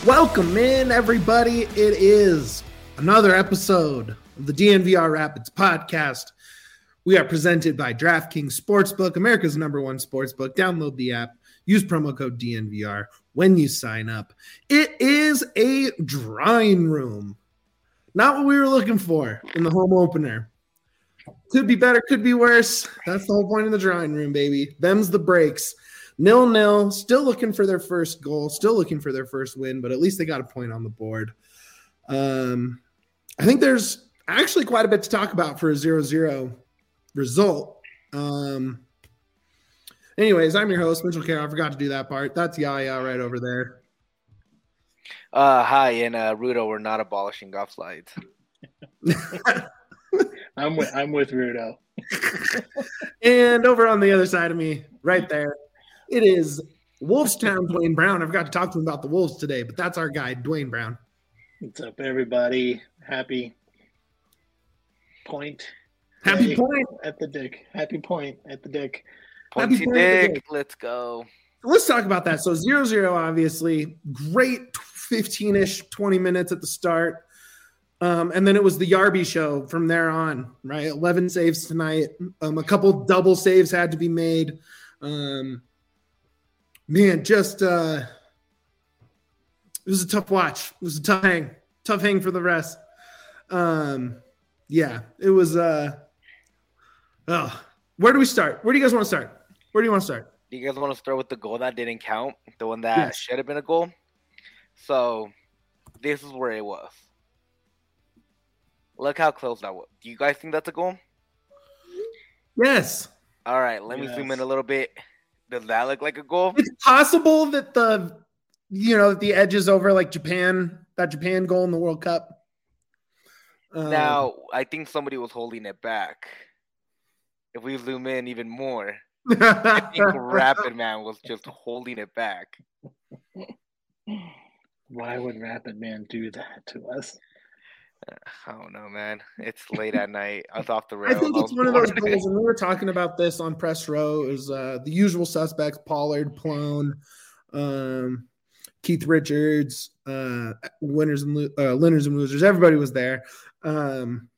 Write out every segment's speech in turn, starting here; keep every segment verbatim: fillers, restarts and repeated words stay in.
Welcome in, everybody. It is another episode of the D N V R Rapids podcast. We are presented by DraftKings Sportsbook, America's number one sportsbook. Download the app. Use promo code D N V R when you sign up. It is a drawing room. Not what we were looking for in the home opener. Could be better, could be worse. That's the whole point of the drawing room, baby. Them's the breaks. Nil-nil, still looking for their first goal, still looking for their first win, but at least they got a point on the board. Um, I think there's actually quite a bit to talk about for a zero zero result. Um, anyways, I'm your host, Mitchell Carroll. I forgot to do that part. That's Yaya right over there. Uh, hi, and uh, Rudo, we're not abolishing golf slides. I'm with I'm with Rudo. And over on the other side of me, right there, it is Wolfstown Dwayne Brown. I forgot to talk to him about the Wolves today, but that's our guy, Dwayne Brown. What's up, everybody? Happy point. Happy Hey, point. at the dick. Happy point at the dick. Pointy Happy point of the dick, day. let's go. Let's talk about that. So zero zero, obviously. Great fifteen-ish, twenty minutes at the start. Um, and then it was the Yarby show from there on, right? eleven saves tonight. Um, a couple double saves had to be made. Um, man, just uh, it was a tough watch. It was a tough hang. Tough hang for the rest. Um, yeah, it was uh, – oh, where do we start? Where do you guys want to start? Where do you want to start? Do you guys want to start with the goal that didn't count? The one that Yes. should have been a goal? So, this is where it was. Look how close that was. Do you guys think that's a goal? Yes. All right, let me Yes. zoom in a little bit. Does that look like a goal? It's possible that the, you know, the edge is over like Japan, that Japan goal in the World Cup. Um, Now, I think somebody was holding it back. If we zoom in even more, I think Rapid Man was just holding it back. Why would Rapid Man do that to us? I don't know, man. It's late at night. I was off the I rails. think I it's was one of those bored. goals, and we were talking about this on press row. Is uh, the usual suspects: Pollard, Plone, um, Keith Richards, uh, winners and lo- uh, winners and losers. Everybody was there. Um,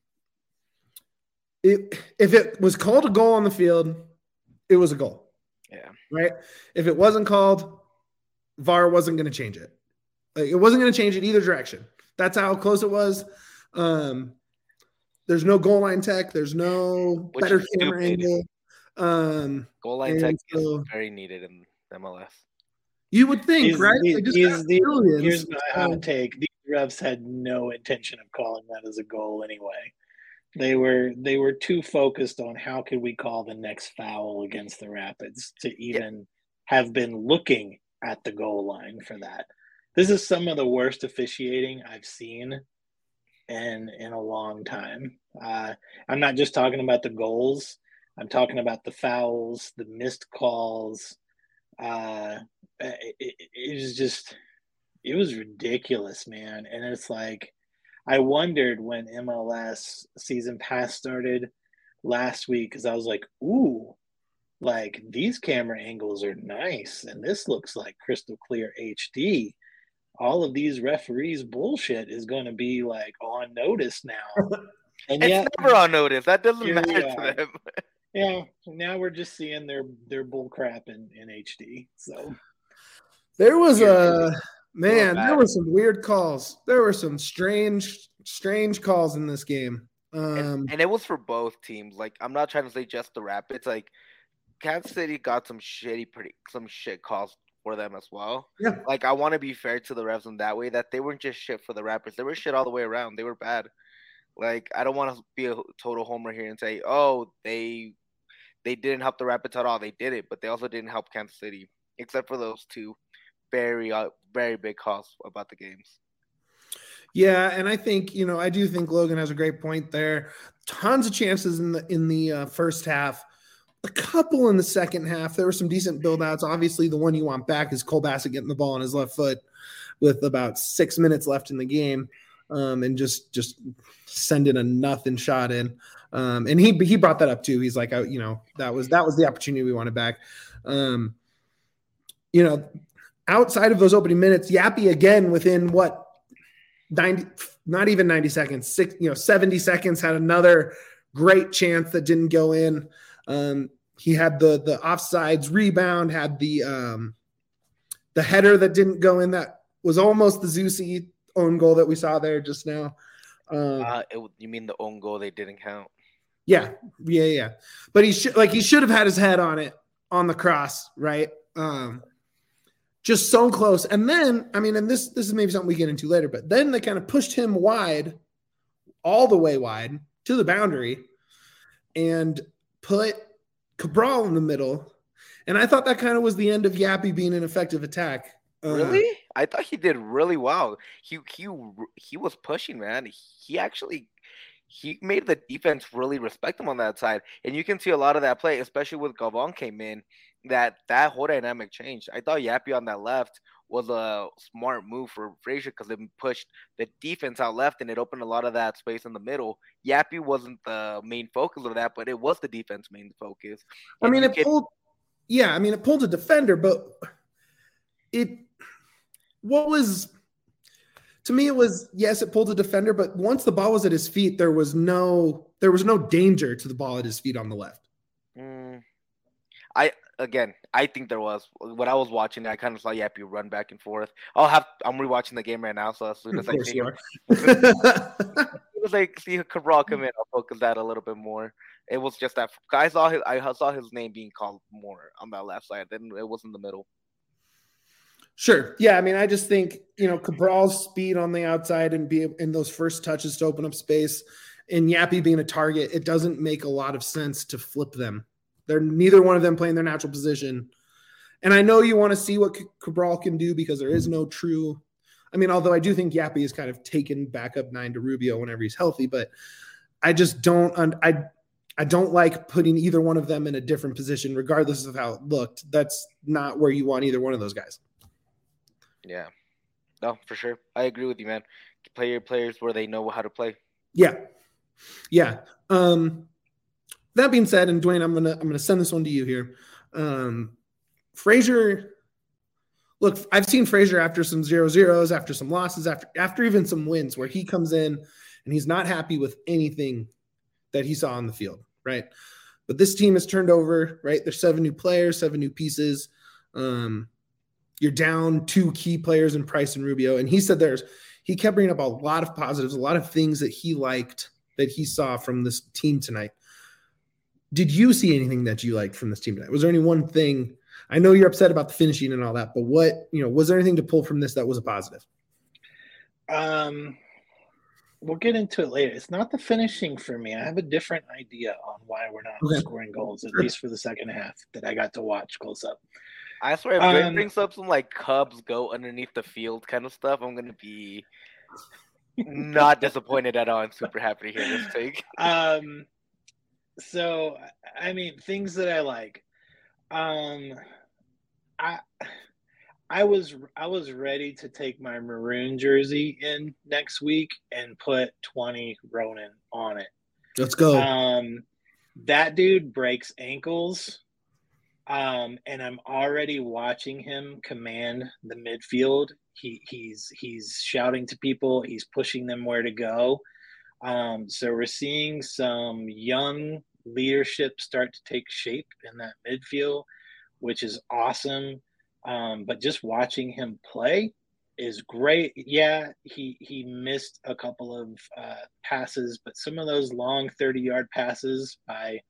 it, if it was called a goal on the field, it was a goal. Yeah. Right. If it wasn't called, V A R wasn't going to change it. Like, it wasn't going to change it either direction. That's how close it was. Um, there's no goal line tech. There's no Which better is camera stupid. angle. Um, Goal line And tech so- is very needed in M L S. you would think, These- right? these- They just these- got these- billions. Here's my Um, hot take. These refs had no intention of calling that as a goal anyway. They were they were too focused on how could we call the next foul against the Rapids to even have been looking at the goal line for that. This is some of the worst officiating I've seen in in a long time. Uh, I'm not just talking about the goals. I'm talking about the fouls, the missed calls. Uh, it, it, it was just, it was ridiculous, man. And it's like, I wondered when M L S season pass started last week, because I was like, ooh, like these camera angles are nice, and this looks like crystal clear H D. All of these referees bullshit is going to be like on notice now. And It's yet, never on notice. That doesn't Here we matter are. to them. yeah, now we're just seeing their their bull crap in, in H D. So There was Weird. a man. bad. There were some weird calls. There were some strange, strange calls in this game. Um, And, and it was for both teams. Like, I'm not trying to say just the Rapids. Like, Kansas City got some shitty, pretty some shit calls for them as well. yeah, Like, I want to be fair to the refs in that way, that they weren't just shit for the Rapids. They were shit all the way around. They were bad. Like, I don't want to be a total homer here and say, oh, they they didn't help the Rapids at all. They did it, but they also didn't help Kansas City, except for those two very, uh, very big calls about the games. yeah, and I think you know I do think Logan has a great point there. Tons of chances in the in the uh, first half. A couple in the second half. There were some decent build outs. Obviously, the one you want back is Cole Bassett getting the ball on his left foot with about six minutes left in the game, um, and just just sending a nothing shot in. Um, and he he brought that up too. He's like, oh, you know, that was that was the opportunity we wanted back. Um, you know, outside of those opening minutes, Yappy again within what ninety, not even ninety seconds, six, you know, seventy seconds had another great chance that didn't go in. Um, he had the the offsides rebound, had the um, the header that didn't go in that was almost the Zusi own goal that we saw there just now. Um, uh, it, you mean the own goal they didn't count? Yeah, yeah, yeah. But he should like he should have had his head on it on the cross, right? Um, just so close. And then, I mean, and this this is maybe something we get into later, but then they kind of pushed him wide, all the way wide to the boundary, and put Cabral in the middle. And I thought that kind of was the end of Yappy being an effective attack. Uh, Really? I thought he did really well. He he he was pushing, man. He actually he made the defense really respect him on that side, and you can see a lot of that play, especially with Gavon came in. That that whole dynamic changed. I thought Yappy on that left was a smart move for Frazier because it pushed the defense out left and it opened a lot of that space in the middle. Yappy wasn't the main focus of that, but it was the defense main focus. I mean, And it you pulled, yeah, I mean, it pulled a defender, but it, what was, to me, it was, yes, it pulled a defender, but once the ball was at his feet, there was no, there was no danger to the ball at his feet on the left. Mm, I, again, I think there was. When I was watching it, I kind of saw Yappy run back and forth. I'll have, I'm rewatching the game right now, so as soon as Of I course see you him, are. as soon as I see Cabral come in, I'll focus that a little bit more. It was just that I saw his, I saw his name being called more on that left side. Then it was in the middle. Sure. Yeah. I mean, I just think, you know, Cabral's speed on the outside and be in those first touches to open up space and Yappy being a target, it doesn't make a lot of sense to flip them. They're neither one of them playing their natural position. And I know you want to see what Cabral can do because there is no true, I mean, although I do think Yappy is kind of taken back up nine to Rubio whenever he's healthy, but I just don't, I, I don't like putting either one of them in a different position, regardless of how it looked. That's not where you want either one of those guys. Yeah, no, for sure. I agree with you, man. Play your players where they know how to play. Yeah, yeah. Um, that being said, and Dwayne, I'm gonna I'm gonna send this one to you here. Um, Frazier, look, I've seen Frazier after some zero zeros, after some losses, after after even some wins, where he comes in and he's not happy with anything that he saw on the field, right? But this team has turned over, right? There's seven new players, seven new pieces. Um, You're down two key players in Price and Rubio. And he said there's, he kept bringing up a lot of positives, a lot of things that he liked that he saw from this team tonight. Did you see anything that you liked from this team tonight? Was there any one thing? I know you're upset about the finishing and all that, but what, you know, was there anything to pull from this that was a positive? Um, we'll get into it later. It's not the finishing for me. I have a different idea on why we're not okay. scoring goals, at sure. least for the second half that I got to watch close up. I swear, if Greg um, brings up some like Cubs go underneath the field kind of stuff, I'm gonna be not disappointed at all. I'm super happy to hear this take. Um, so I mean, things that I like. Um, I I was I was ready to take my maroon jersey in next week and put twenty Ronan on it. Let's go. Um, that dude breaks ankles. Um, and I'm already watching him command the midfield. He he's he's shouting to people. He's pushing them where to go. Um, so we're seeing some young leadership start to take shape in that midfield, which is awesome. Um, but just watching him play is great. Yeah, he he missed a couple of uh, passes, but some of those long thirty-yard passes by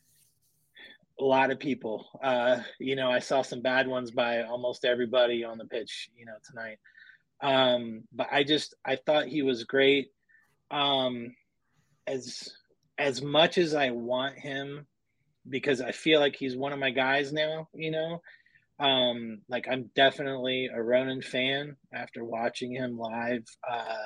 a lot of people, uh, you know, I saw some bad ones by almost everybody on the pitch, you know, tonight. Um, but I just, I thought he was great. Um, as, as much as I want him, because I feel like he's one of my guys now, you know, um, like I'm definitely a Ronan fan after watching him live. Uh,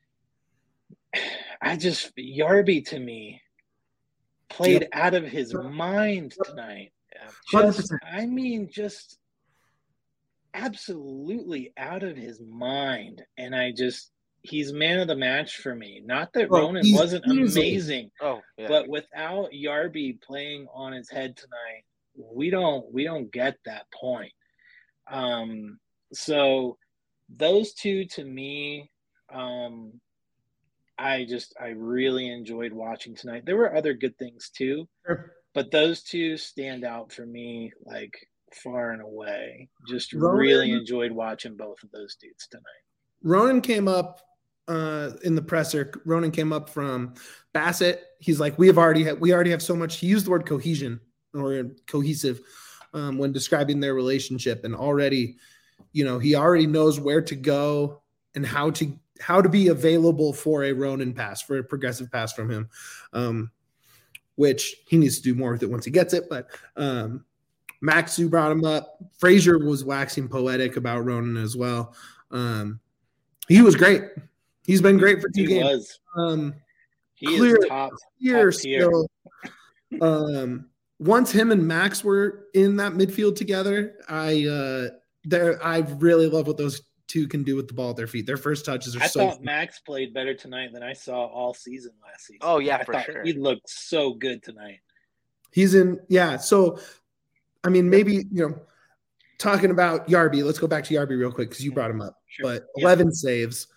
I just, Yarby to me, played yep. out of his mind tonight. Just, I mean, just absolutely out of his mind. And I just, he's man of the match for me. Not that oh, Ronan wasn't easy. amazing, oh, yeah. but without Yarby playing on his head tonight, we don't, we don't get that point. Um, So those two to me, um, I just I really enjoyed watching tonight. There were other good things too, Sure. but those two stand out for me like far and away. Just really Ronan, enjoyed watching both of those dudes tonight. Ronan came up uh, in the presser. Ronan came up from Bassett. He's like, we have already had, we already have so much. He used the word cohesion or cohesive um, when describing their relationship, and already, you know, he already knows where to go and how to how to be available for a Ronan pass, for a progressive pass from him, um, which he needs to do more with it once he gets it. But um, Maxu brought him up. Frazier was waxing poetic about Ronan as well. Um, he was great. He's been great for two he games. Was. Um, he clear, is top, clear top tier. skill. Um, once him and Max were in that midfield together, I uh, there I really love what those two can do with the ball at their feet. Their first touches are I so. thought fun. Max played better tonight than I saw all season last season. Oh yeah, I for thought sure. He looked so good tonight. He's in, yeah. So, I mean, maybe, you know, talking about Yarby, let's go back to Yarby real quick because you brought him up. Sure. But Yep. eleven saves,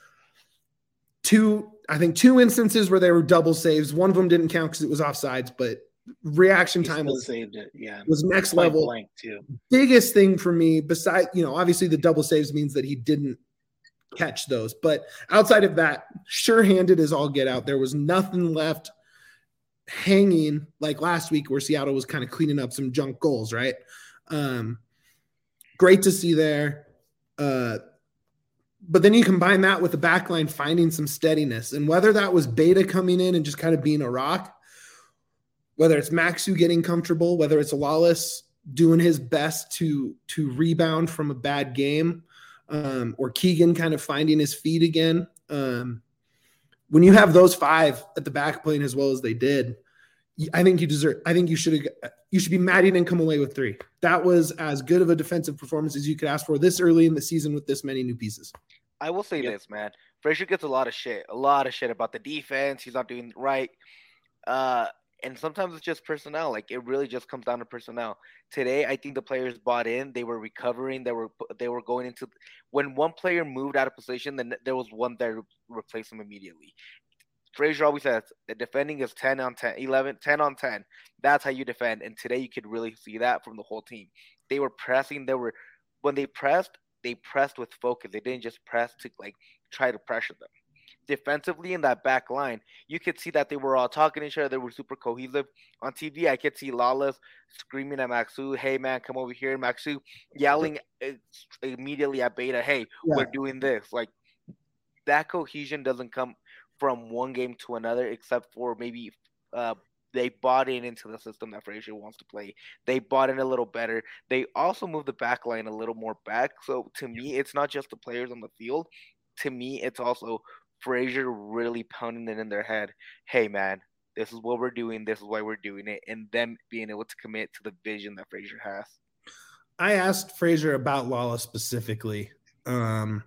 two, I think two instances where they were double saves. One of them didn't count because it was offsides, but reaction He time still was saved it. Yeah, was next point level. blank too. Biggest thing for me, besides, you know, obviously the double saves means that he didn't catch those. But outside of that, sure-handed as all get out. There was nothing left hanging like last week where Seattle was kind of cleaning up some junk goals, right? Um, great to see there. Uh, but then you combine that with the back line finding some steadiness. And whether that was Beta coming in and just kind of being a rock, whether it's Maxu getting comfortable, whether it's Lawless doing his best to, to rebound from a bad game, um, or Keegan kind of finding his feet again. Um, when you have those five at the back playing as well as they did, I think you deserve, I think you should, you should be mad you didn't come away with three. That was as good of a defensive performance as you could ask for this early in the season with this many new pieces. I will say Yep. this, man. Frazier gets a lot of shit, a lot of shit about the defense. He's not doing right. Uh, and sometimes it's just personnel. Like, it really just comes down to personnel. Today, I think the players bought in. They were recovering. They were they were going into – when one player moved out of position, then there was one there to replace him immediately. Frazier always says the defending is ten on ten, eleven, ten on ten. That's how you defend. And today you could really see that from the whole team. They were pressing. They were – when they pressed, they pressed with focus. They didn't just press to, like, try to pressure them. Defensively in that back line, you could see that they were all talking to each other. They were super cohesive. On T V, I could see Lawless screaming at Maxu, hey, man, come over here. And Maxu yelling immediately at Beta, hey, yeah. we're doing this. Like, that cohesion doesn't come from one game to another, except for maybe uh, they bought in into the system that Frazier wants to play. They bought in a little better. They also moved the back line a little more back. So, to me, it's not just the players on the field. To me, it's also Frazier really pounding it in their head. Hey, man, this is what we're doing. This is why we're doing it. And them being able to commit to the vision that Frazier has. I asked Frazier about Lawless specifically. Um,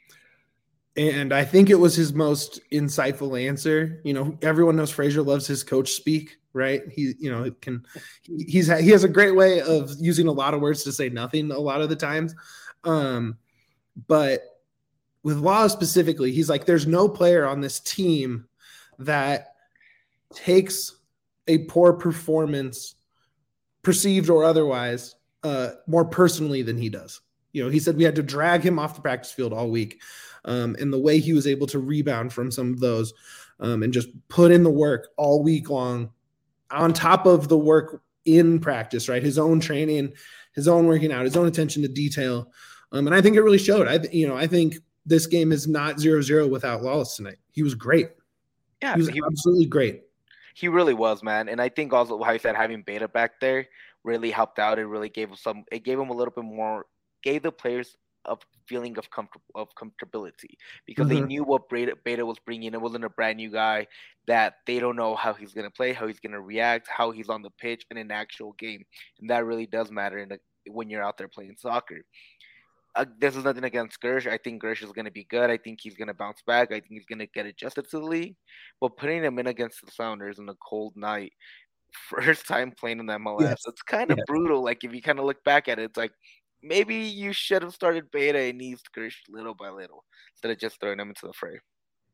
and I think it was his most insightful answer. You know, everyone knows Frazier loves his coach speak, right? He, you know, it can, he's, he has a great way of using a lot of words to say nothing a lot of the times. Um, but with Lawless specifically, he's like, there's no player on this team that takes a poor performance, perceived or otherwise, uh, more personally than he does. You know, he said we had to drag him off the practice field all week. Um, and the way he was able to rebound from some of those um, and just put in the work all week long on top of the work in practice, right? His own training, his own working out, his own attention to detail. Um, and I think it really showed. I, you know, I think this game is not zero zero without Lawless tonight. He was great. Yeah, he was he, absolutely great. He really was, man. And I think also how you said having Beta back there really helped out. It really gave him some. It gave him a little bit more. Gave the players a feeling of comfort of comfortability because mm-hmm. they knew what Beta, Beta was bringing. It wasn't a brand new guy that they don't know how he's gonna play, how he's gonna react, how he's on the pitch in an actual game, and that really does matter in the, when you're out there playing soccer. Uh, this is nothing against Gersh. I think Gersh is going to be good. I think he's going to bounce back. I think he's going to get adjusted to the league. But putting him in against the Sounders on a cold night, first time playing in the M L S, yes. it's kind of yeah. brutal. Like, if you kind of look back at it, it's like, maybe you should have started Beta and eased Gersh little by little instead of just throwing him into the fray.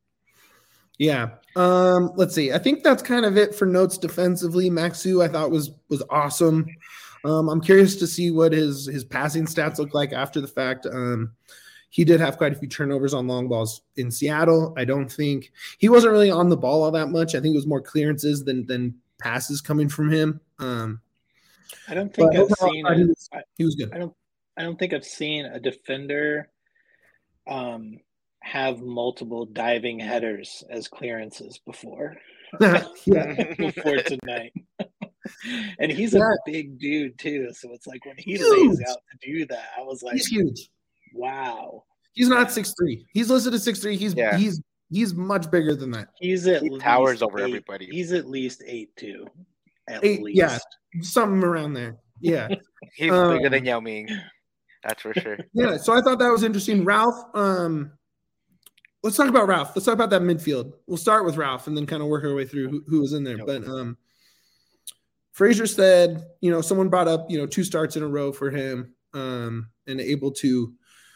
Yeah. Um, let's see. I think that's kind of it for notes defensively. Maxu, I thought was was awesome. Um, I'm curious to see what his his passing stats look like after the fact. Um, he did have quite a few turnovers on long balls in Seattle. I don't think he wasn't really on the ball all that much. I think it was more clearances than than passes coming from him. Um, I don't think I've overall, seen. he, A, was, I, he was good. I don't. I don't think I've seen a defender um, have multiple diving headers as clearances before. yeah. Before tonight. And he's yeah. a big dude too, so it's like when he huge. lays out to do that, I was like, he's huge. Wow. He's not six three. He's listed as six three. He's yeah. he's he's much bigger than that. He's at he least towers over eight, everybody. He's at least eight two. At eight, least. Yeah, something around there. Yeah. He's um, bigger than Yao Ming. That's for sure. Yeah, so I thought that was interesting. Ralph, um, let's talk about Ralph. Let's talk about that midfield. We'll start with Ralph and then kind of work our way through who, who was in there. Yep. But um, Frazier said, you know, someone brought up, you know, two starts in a row for him um, and able to,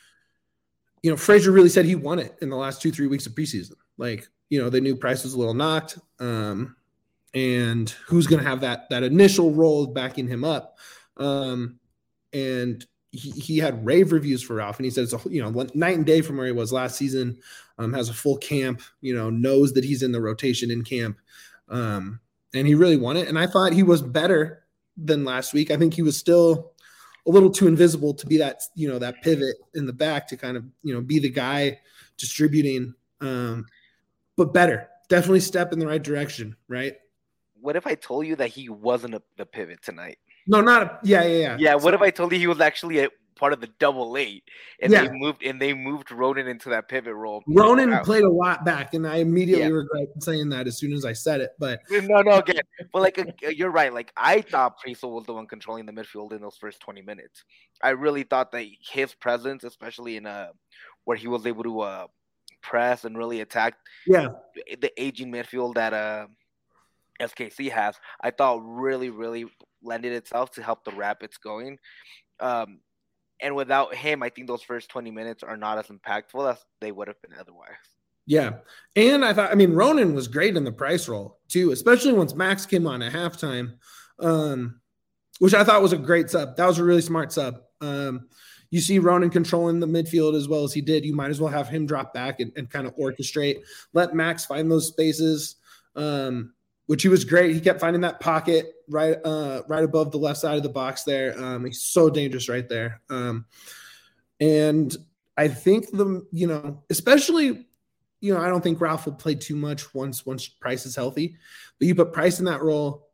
you know, Frazier really said he won it in the last two, three weeks of preseason. Like, you know, they knew Price was a little knocked um, and who's going to have that that initial role backing him up. Um, and he, he had rave reviews for Ralph, and he said it's a, you know, night and day from where he was last season, um, has a full camp, you know, knows that he's in the rotation in camp. Um, and he really won it. And I thought he was better than last week. I think he was still a little too invisible to be that, you know, that pivot in the back to kind of, you know, be the guy distributing, um, but better, definitely step in the right direction. Right. What if I told you that he wasn't a, the pivot tonight? No, not a, yeah, yeah, yeah. Yeah. What so, if I told you he was actually a part of the double eight and yeah. they moved and they moved Ronan into that pivot role? Ronan wow. played a lot back, and I immediately yeah. regret saying that as soon as I said it. But no, no, again, but like uh, you're right. Like I thought Priso was the one controlling the midfield in those first twenty minutes. I really thought that his presence, especially in uh where he was able to uh press and really attack, yeah, the aging midfield that uh S K C has, I thought really, really lended itself to help the Rapids going. Um, and without him, I think those first twenty minutes are not as impactful as they would have been otherwise. Yeah. And I thought, I mean, Ronan was great in the Price role too, especially once Max came on at halftime, um, which I thought was a great sub. That was a really smart sub. Um, you see Ronan controlling the midfield as well as he did. You might as well have him drop back and, and kind of orchestrate, let Max find those spaces, um, which he was great. He kept finding that pocket right uh, right above the left side of the box there. Um, he's so dangerous right there. Um, and I think the, you know, especially, you know, I don't think Ralph will play too much once once Price is healthy. But you put Price in that role,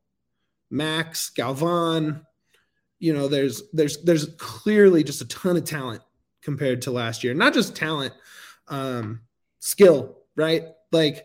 Max, Galvan, you know, there's there's there's clearly just a ton of talent compared to last year. Not just talent, um, skill, right? Like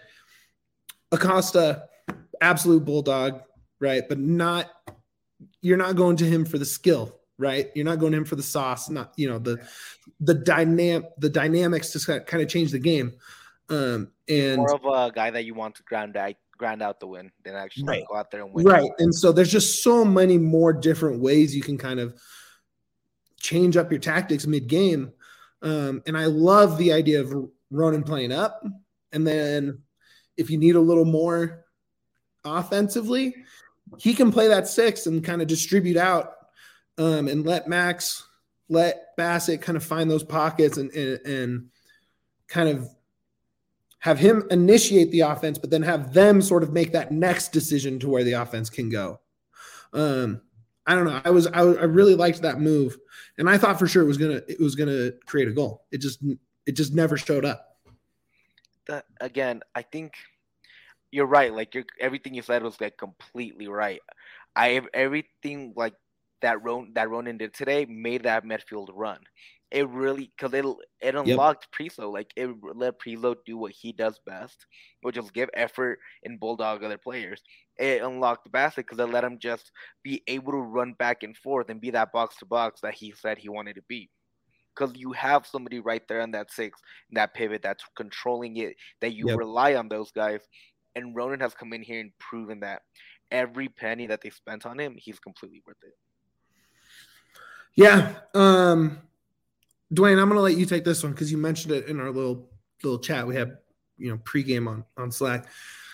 Acosta, absolute bulldog, right? But not, you're not going to him for the skill, right? You're not going to him for the sauce, not, you know, the the dynamic the dynamics to kind of change the game. Um, and more of a guy that you want to ground out, ground out the win than actually right. go out there and win. Right. And so there's just so many more different ways you can kind of change up your tactics mid-game. Um, and I love the idea of Ronan playing up. And then if you need a little more offensively, he can play that six and kind of distribute out um, and let Max, let Bassett kind of find those pockets and, and, and kind of have him initiate the offense, but then have them sort of make that next decision to where the offense can go. Um, I don't know. I was, I was, I really liked that move, and I thought for sure it was gonna, it was gonna create a goal. It just, it just never showed up. That again, I think you're right. Like you're, everything you said was like completely right. I everything like that Ron, that Ronan did today made that midfield run. It really, because it it unlocked yep. Priso. Like it let Priso do what he does best, which is give effort and bulldog other players. It unlocked Bassett because it let him just be able to run back and forth and be that box to box that he said he wanted to be. Because you have somebody right there on that six, that pivot that's controlling it, that you yep. rely on those guys. And Ronan has come in here and proven that every penny that they spent on him, he's completely worth it. Yeah. Um, Dwayne, I'm going to let you take this one because you mentioned it in our little little chat we had, you know, pregame on, on Slack.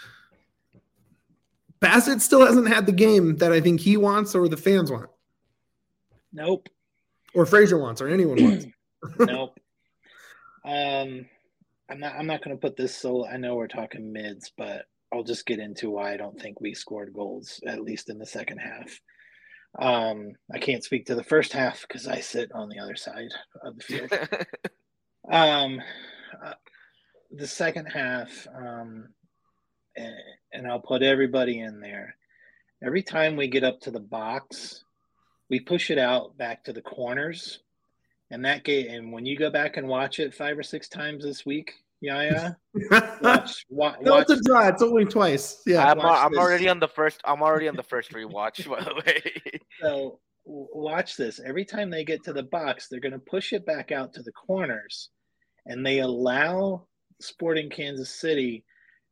Bassett still hasn't had the game that I think he wants or the fans want. Nope. Or Frazier wants or anyone wants. Nope. Um, I'm not. I'm not going to put this. So I know we're talking mids, but I'll just get into why I don't think we scored goals, at least in the second half. Um, I can't speak to the first half because I sit on the other side of the field. um, uh, the second half, um, and, and I'll put everybody in there. Every time we get up to the box, we push it out back to the corners. And that game, and when you go back and watch it five or six times this week, Yaya, watch, watch. No, it's a draw. It's only twice. Yeah, I'm, I'm already on the first. I'm already on the first rewatch. By the way, so watch this. Every time they get to the box, they're going to push it back out to the corners, and they allow Sporting Kansas City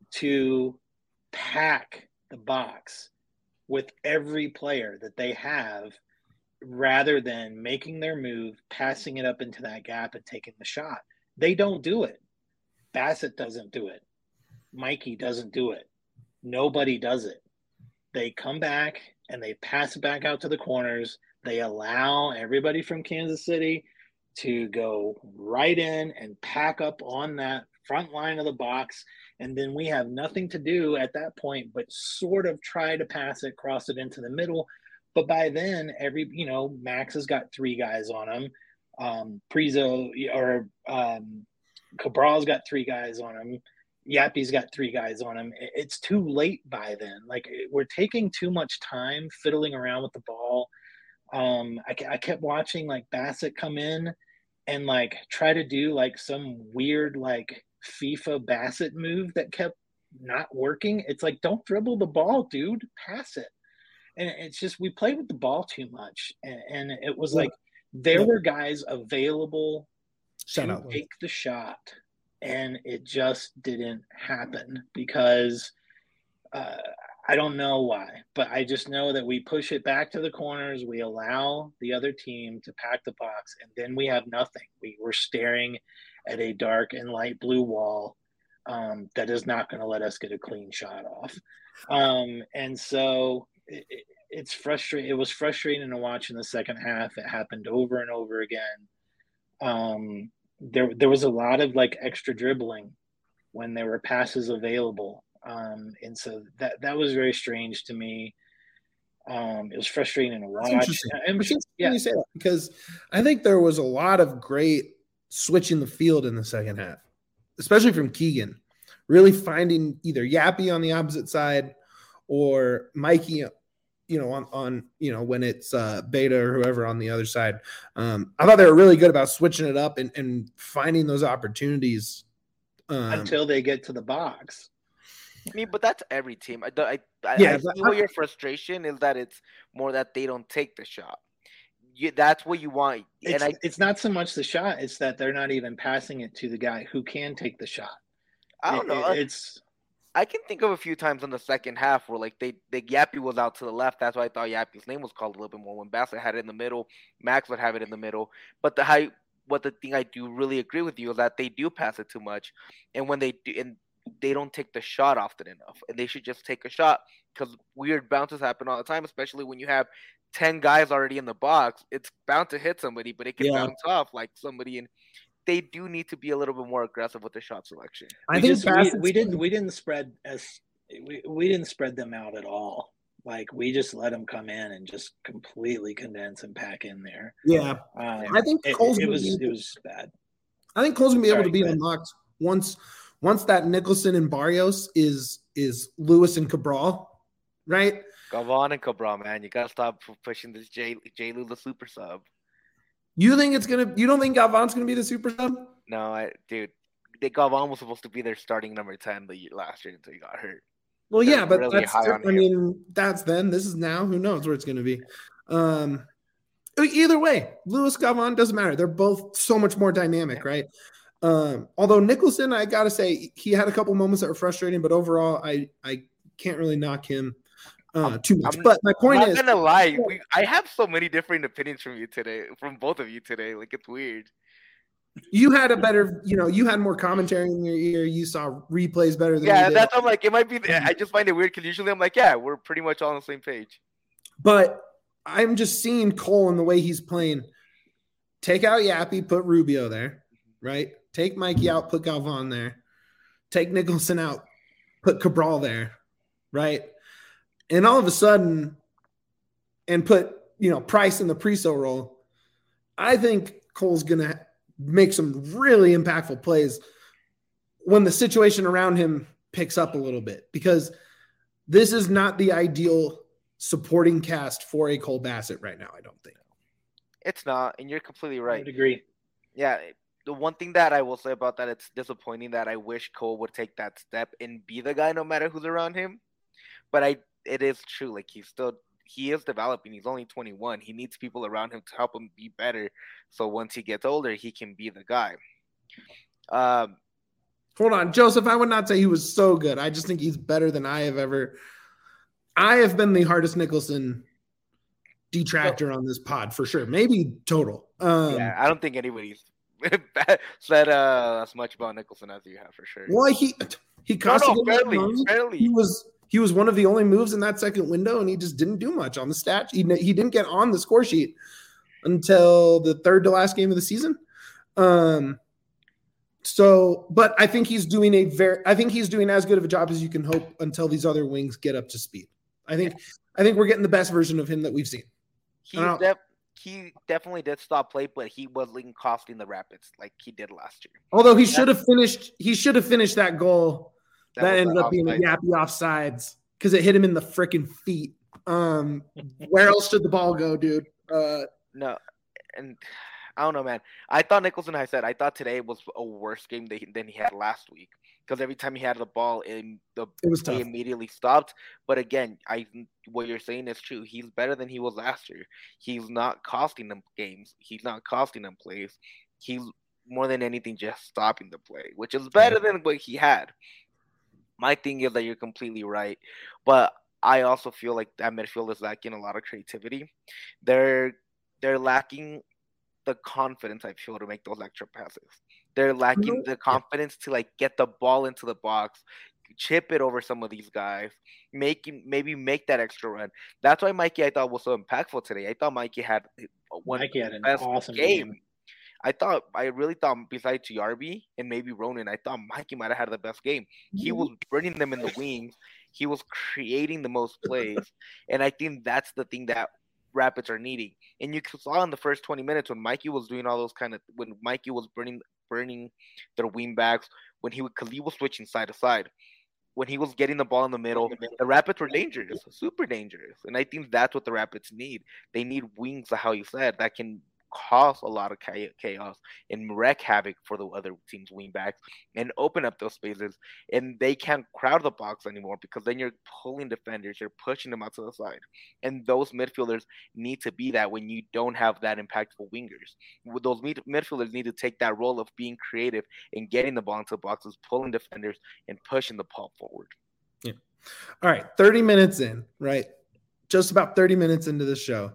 to pack the box with every player that they have, rather than making their move, passing it up into that gap and taking the shot. They don't do it. Bassett doesn't do it. Mikey doesn't do it. Nobody does it. They come back and they pass it back out to the corners. They allow everybody from Kansas City to go right in and pack up on that front line of the box. And then we have nothing to do at that point but sort of try to pass it, cross it into the middle. But by then, every, you know, Max has got three guys on him. Um, Prizo or um, Cabral's got three guys on him. Yappy's got three guys on him. It's too late by then. Like, we're taking too much time fiddling around with the ball. Um, I, I kept watching, like, Bassett come in and, like, try to do, like, some weird, like, FIFA Bassett move that kept not working. It's like, don't dribble the ball, dude. Pass it. And it's just, we played with the ball too much. And, and it was yeah. like, there yeah. were guys available Shut to up. take the shot. And it just didn't happen because uh, I don't know why. But I just know that we push it back to the corners. We allow the other team to pack the box. And then we have nothing. We were staring at a dark and light blue wall um, that is not going to let us get a clean shot off. Um, and so... It, it's frustrating. It was frustrating to watch in the second half. It happened over and over again. Um, there, there was a lot of like extra dribbling when there were passes available. Um, and so that, that was very strange to me. Um, it was frustrating to watch. Interesting. Interesting yeah. You say that because I think there was a lot of great switching the field in the second half, especially from Keegan, really finding either Yappy on the opposite side or Mikey, you know, on, on, you know, when it's uh, Beta or whoever on the other side. Um, I thought they were really good about switching it up and, and finding those opportunities. Um, Until they get to the box. I mean, but that's every team. I, I, I, yeah, I see what your frustration is, that it's more that they don't take the shot. You, that's what you want. It's, and I, it's not so much the shot. It's that they're not even passing it to the guy who can take the shot. I don't it, know. It, it's... I can think of a few times in the second half where, like, they, they Yappy was out to the left. That's why I thought Yappy's name was called a little bit more. When Bassett had it in the middle, Max would have it in the middle. But the high, what the thing I do really agree with you is that they do pass it too much, and when they do, and they don't take the shot often enough. And they should just take a shot, because weird bounces happen all the time, especially when you have ten guys already in the box. It's bound to hit somebody, but it can yeah. bounce off like somebody in. They do need to be a little bit more aggressive with the shot selection. I we think just, we, we didn't we didn't spread as we, we didn't spread them out at all. Like, we just let them come in and just completely condense and pack in there. Yeah, um, I think it, Cole's it was be, it was bad. I think Cole's gonna be Sorry, able to be unlocked once once that Nicholson and Barrios is is Lewis and Cabral, right? Gavon and Cabral, man, you gotta stop pushing this J J Lou the super sub. You think it's gonna? You don't think Gavon's gonna be the super sub? No, I, dude. They, Gavon was supposed to be their starting number ten the year, last year until he got hurt. Well, They're yeah, but really that's. I mean, that's then. This is now. Who knows where it's gonna be? Um, either way, Lewis Gavon doesn't matter. They're both so much more dynamic, right? Um, although Nicholson, I gotta say, he had a couple moments that were frustrating, but overall, I I can't really knock him uh, too much. I'm, but my point I'm is, not gonna lie, we, I have so many different opinions from you today, from both of you today. Like it's weird. You had a better, you know, you had more commentary in your ear. You saw replays better than yeah. me did. That's I'm like, it might be. I just find it weird because usually I'm like, yeah, we're pretty much all on the same page. But I'm just seeing Cole and the way he's playing. Take out Yappy, put Rubio there, right? Take Mikey out, put Galvan there. Take Nicholson out, put Cabral there, right? And all of a sudden, and put, you know, Price in the Priso role, I think Cole's going to make some really impactful plays when the situation around him picks up a little bit, because this is not the ideal supporting cast for a Cole Bassett right now, I don't think. It's not, and you're completely right. I would agree. Yeah, the one thing that I will say about that, it's disappointing that I wish Cole would take that step and be the guy no matter who's around him. But I, it is true. Like he's still, he is developing. He's only twenty-one. He needs people around him to help him be better. So once he gets older, he can be the guy. Um, Hold on, Joseph. I would not say he was so good. I just think he's better than I have ever. I have been the hardest Nicholson detractor on this pod for sure. Maybe total. Um, yeah, I don't think anybody's said uh, as much about Nicholson as you have for sure. Well, he he cost no, no, barely, barely. He was he was one of the only moves in that second window, and he just didn't do much on the stat. He he didn't get on the score sheet until the third to last game of the season. Um. So, but I think he's doing a very. I think he's doing as good of a job as you can hope until these other wings get up to speed. I think. I think we're getting the best version of him that we've seen. He's def- he definitely did stop play, but he wasn't costing the Rapids like he did last year. Although he should have finished, he should have finished that goal that, that ended up being a yappy offsides because it hit him in the freaking feet. Um, where else should the ball go, dude? Uh, no, and I don't know, man. I thought Nicholson, I said, I thought today was a worse game than he, than he had last week. Because every time he had the ball, in the it was he tough. immediately stopped. But again, I what you're saying is true. He's better than he was last year. He's not costing them games. He's not costing them plays. He's more than anything just stopping the play, which is better yeah. than what he had. My thing is that you're completely right, but I also feel like that midfield is lacking a lot of creativity. They're they're lacking the confidence, I feel, to make those extra passes. They're lacking the confidence to like get the ball into the box, chip it over some of these guys, making maybe make that extra run. That's why Mikey I thought was so impactful today. I thought Mikey had one Mikey had an best awesome game. game. I thought I really thought besides G R B and maybe Ronan, I thought Mikey might have had the best game. He was burning them in the wings. He was creating the most plays, and I think that's the thing that Rapids are needing. And you saw in the first twenty minutes when Mikey was doing all those kind of when Mikey was burning burning their wing backs, when he would because he was switching side to side, when he was getting the ball in the middle, the Rapids were dangerous, super dangerous. And I think that's what the Rapids need. They need wings, like how you said, that can cause a lot of chaos and wreak havoc for the other team's wing backs and open up those spaces. And they can't crowd the box anymore because then you're pulling defenders, you're pushing them out to the side. And those midfielders need to be that when you don't have that impactful wingers. Those mid- midfielders need to take that role of being creative and getting the ball into the boxes, pulling defenders, and pushing the ball forward. Yeah. All right, thirty minutes in, right? Just about thirty minutes into the show.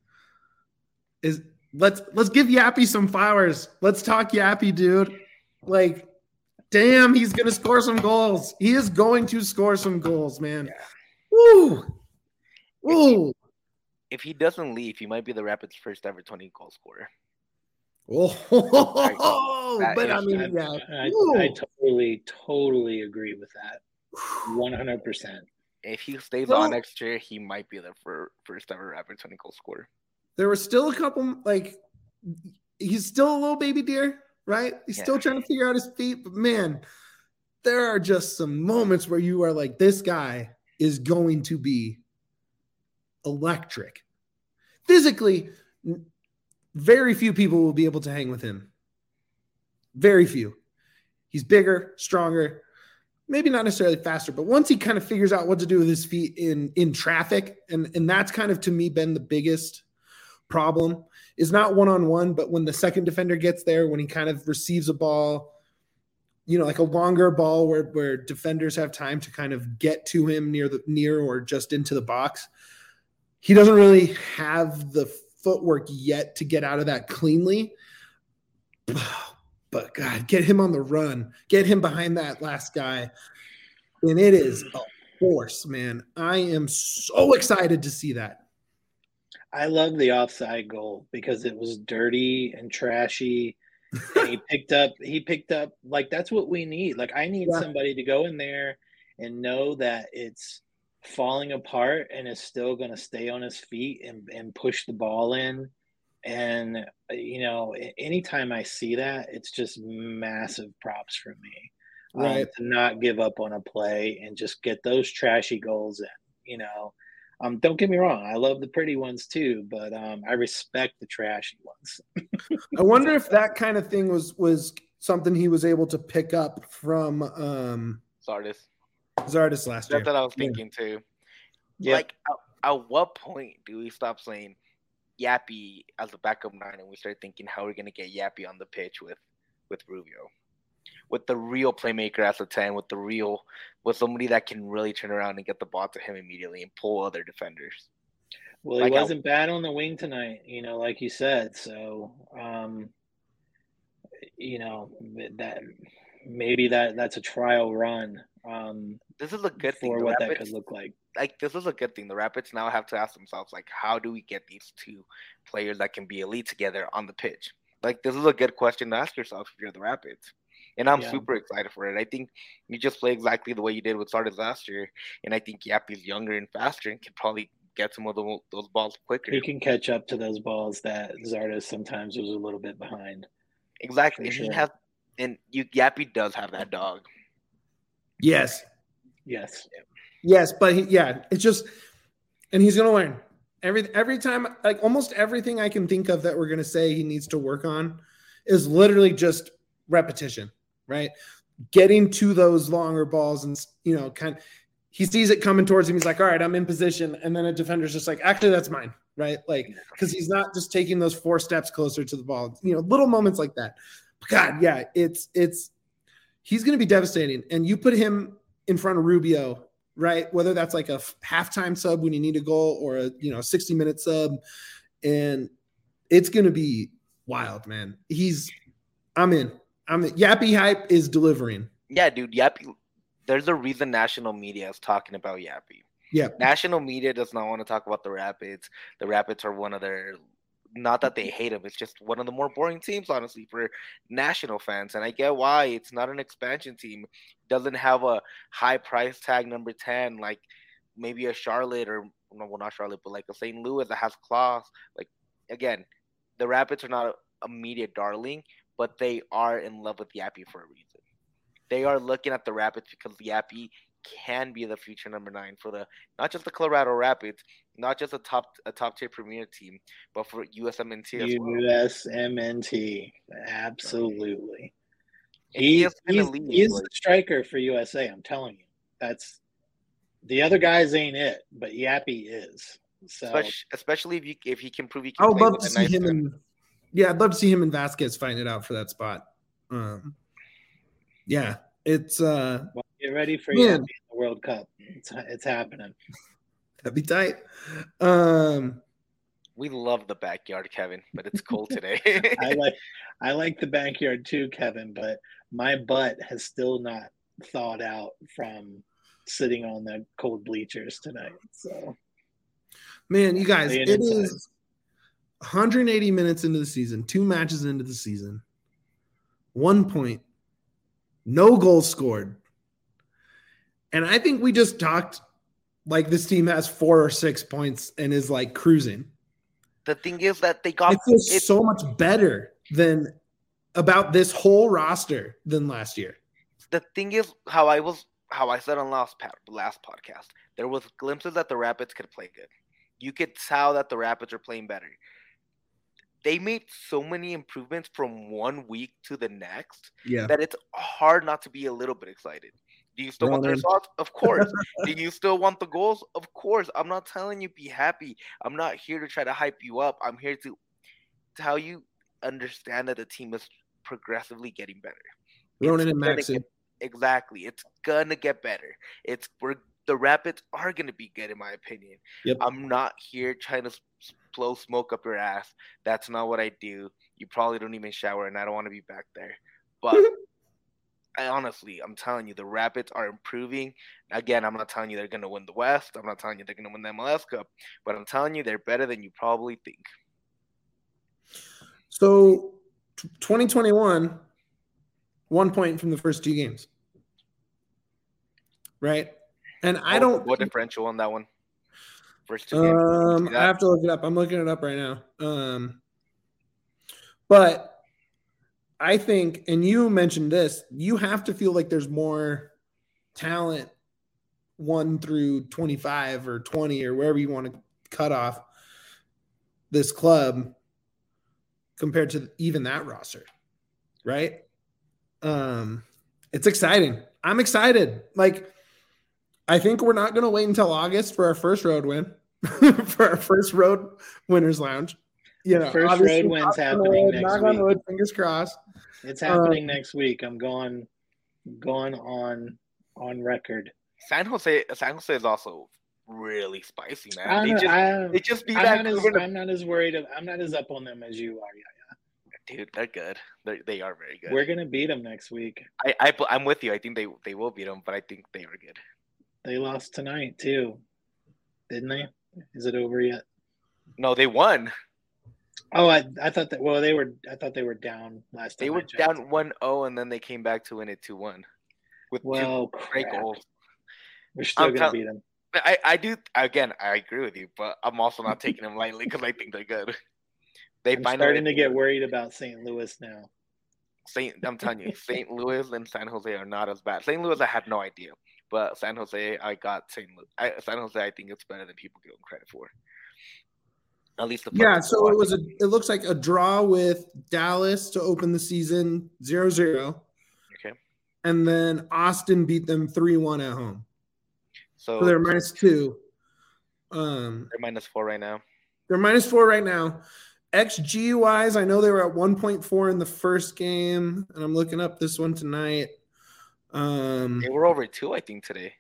Is Let's let's give Yappy some flowers. Let's talk Yappy, dude. Like, damn, he's gonna score some goals. He is going to score some goals, man. Yeah. Woo, woo. If he, if he doesn't leave, he might be the Rapids' first ever twenty goal scorer. Oh, that but I mean, I, yeah, I, I, I totally, totally agree with that. One hundred percent. If he stays well, on next year, he might be the first ever Rapids twenty goal scorer. There were still a couple, like, he's still a little baby deer, right? He's yeah. still trying to figure out his feet. But, man, there are just some moments where you are like, this guy is going to be electric. Physically, very few people will be able to hang with him. Very few. He's bigger, stronger, maybe not necessarily faster, but once he kind of figures out what to do with his feet in, in traffic, and, and that's kind of, to me, been the biggest problem, is not one-on-one, but when the second defender gets there, when he kind of receives a ball, you know, like a longer ball where, where defenders have time to kind of get to him near the near or just into the box. He doesn't really have the footwork yet to get out of that cleanly. But God, get him on the run, get him behind that last guy. And it is a force, man. I am so excited to see that. I love the offside goal because it was dirty and trashy. And he picked up, he picked up, like, that's what we need. Like, I need yeah. somebody to go in there and know that it's falling apart and is still going to stay on his feet and, and push the ball in. And, you know, anytime I see that, it's just massive props for me. Right. Um, to not give up on a play and just get those trashy goals in, you know. Um, don't get me wrong. I love the pretty ones too, but um, I respect the trashy ones. I wonder if that kind of thing was was something he was able to pick up from um, Zardes. Zardes last year. That's what I was thinking yeah. too. Yep. Like, at, at what point do we stop saying Yappy as a backup nine and we start thinking how we're going to get Yappy on the pitch with, with Rubio? With the real playmaker as a ten, with the real, with somebody that can really turn around and get the ball to him immediately and pull other defenders. Well, like he wasn't I, bad on the wing tonight, you know, like you said. So, um, you know, that maybe that that's a trial run. Um, this is a good thing for the what Rapids, that could look like. Like, this is a good thing. The Rapids now have to ask themselves, like, how do we get these two players that can be elite together on the pitch? Like, this is a good question to ask yourself if you're the Rapids. And I'm yeah. super excited for it. I think you just play exactly the way you did with Zardes last year. And I think Yappy's younger and faster and can probably get some of the, those balls quicker. He can catch up to those balls that Zardes sometimes was a little bit behind. Exactly. And sure. he has, and you, Yappy does have that dog. Yes. Yes. Yes, but he, yeah, it's just, and he's going to learn. Every every time, like almost everything I can think of that we're going to say he needs to work on is literally just repetition. Right, getting to those longer balls and, you know, kind of, he sees it coming towards him. He's like, all right, I'm in position. And then a defender's just like, actually, that's mine. Right. Like, because he's not just taking those four steps closer to the ball, you know, little moments like that. God, yeah, it's, it's, he's going to be devastating. And you put him in front of Rubio, right? Whether that's like a halftime sub when you need a goal or a, you know, sixty minute sub. And it's going to be wild, man. He's, I'm in. I mean, Yappy hype is delivering. Yeah, dude, Yappy. There's a reason national media is talking about Yappy. Yeah, national media does not want to talk about the Rapids. The Rapids are one of their, not that they hate them, it's just one of the more boring teams, honestly, for national fans. And I get why. It's not an expansion team. It doesn't have a high price tag number ten like maybe a Charlotte or no, well, not Charlotte, but like a Saint Louis that has claws. Like, again, the Rapids are not a, a media darling, but they are in love with Yappy for a reason. They are looking at the Rapids because Yappy can be the future number nine for the, not just the Colorado Rapids, not just a top a top tier premier team, but for U S M N T as well. U S M N T, absolutely. He, he he's, he's the striker for U S A. I'm telling you, that's the other guys ain't it, but Yappy is. So especially, especially if you if he can prove he can. I would love to see nice him in. Yeah, I'd love to see him and Vasquez fighting it out for that spot. Um, yeah, it's uh. Well, get ready for Yappy in the World Cup. It's it's happening. That'd be tight. Um, we love the backyard, Kevin, but it's cold today. I like I like the backyard too, Kevin, but my butt has still not thawed out from sitting on the cold bleachers tonight. So, man, you guys, it inside. is one hundred eighty minutes into the season, two matches into the season, one point, no goals scored. And I think we just talked like this team has four or six points and is like cruising. The thing is that they got it feels it, so much better than about this whole roster than last year. The thing is how I was how I said on last last podcast, there was glimpses that the Rapids could play good. You could tell that the Rapids are playing better. They made so many improvements from one week to the next yeah. that it's hard not to be a little bit excited. Do you still no, want the results? Of course. Do you still want the goals? Of course. I'm not telling you be happy. I'm not here to try to hype you up. I'm here to tell you understand that the team is progressively getting better. Ronan and Maxey. Get, exactly. It's gonna get better. It's we're the Rapids are gonna be good in my opinion. Yep. I'm not here trying to blow smoke up your ass. That's not what I do. You probably don't even shower, and I don't want to be back there. But I honestly, I'm telling you, the Rapids are improving. Again, I'm not telling you they're gonna win the West. I'm not telling you they're gonna win the M L S Cup, but I'm telling you they're better than you probably think. So, twenty twenty-one, one point from the first two games, right? And I don't. What differential on that one? First two games. Um, I have to look it up. I'm looking it up right now. Um, but I think, and you mentioned this, you have to feel like there's more talent one through twenty-five or twenty or wherever you want to cut off this club compared to even that roster, right? Um, it's exciting. I'm excited. Like, I think we're not going to wait until August for our first road win, for our first road winners lounge. You know, first road win's happening road, next knock week. on wood, fingers crossed. It's happening um, next week. I'm going, going on on record. San Jose, San Jose is also really spicy, man. They not, just, I, they just beat I'm that. Not as, I'm not as worried. Of, I'm not as up on them as you are. Yeah, dude, they're good. They're, they are very good. We're gonna beat them next week. I, I, I'm with you. I think they, they will beat them, but I think they are good. They lost tonight too, didn't they? Is it over yet? No, they won. Oh, I I thought that. Well, they were. I thought they were down last time. They were down one oh, and then they came back to win it two one with well, two great goals. We're still I'm gonna tell- beat them. I, I do again. I agree with you, but I'm also not taking them lightly because I think they're good. They I'm find starting to get worried about Saint Louis now. Saint, I'm telling you, Saint Louis and San Jose are not as bad. Saint Louis, I had no idea, but San Jose, I got Saint Louis. I, San Jose, I think it's better than people give them credit for. At least the yeah. So it was a. It looks like a draw with Dallas to open the season zero zero. Okay. And then Austin beat them three one at home. So, so they're minus two. Um, they're minus four right now. They're minus four right now. X G wise, I know they were at one point four in the first game, and I'm looking up this one tonight. Um, they were over two, I think, today.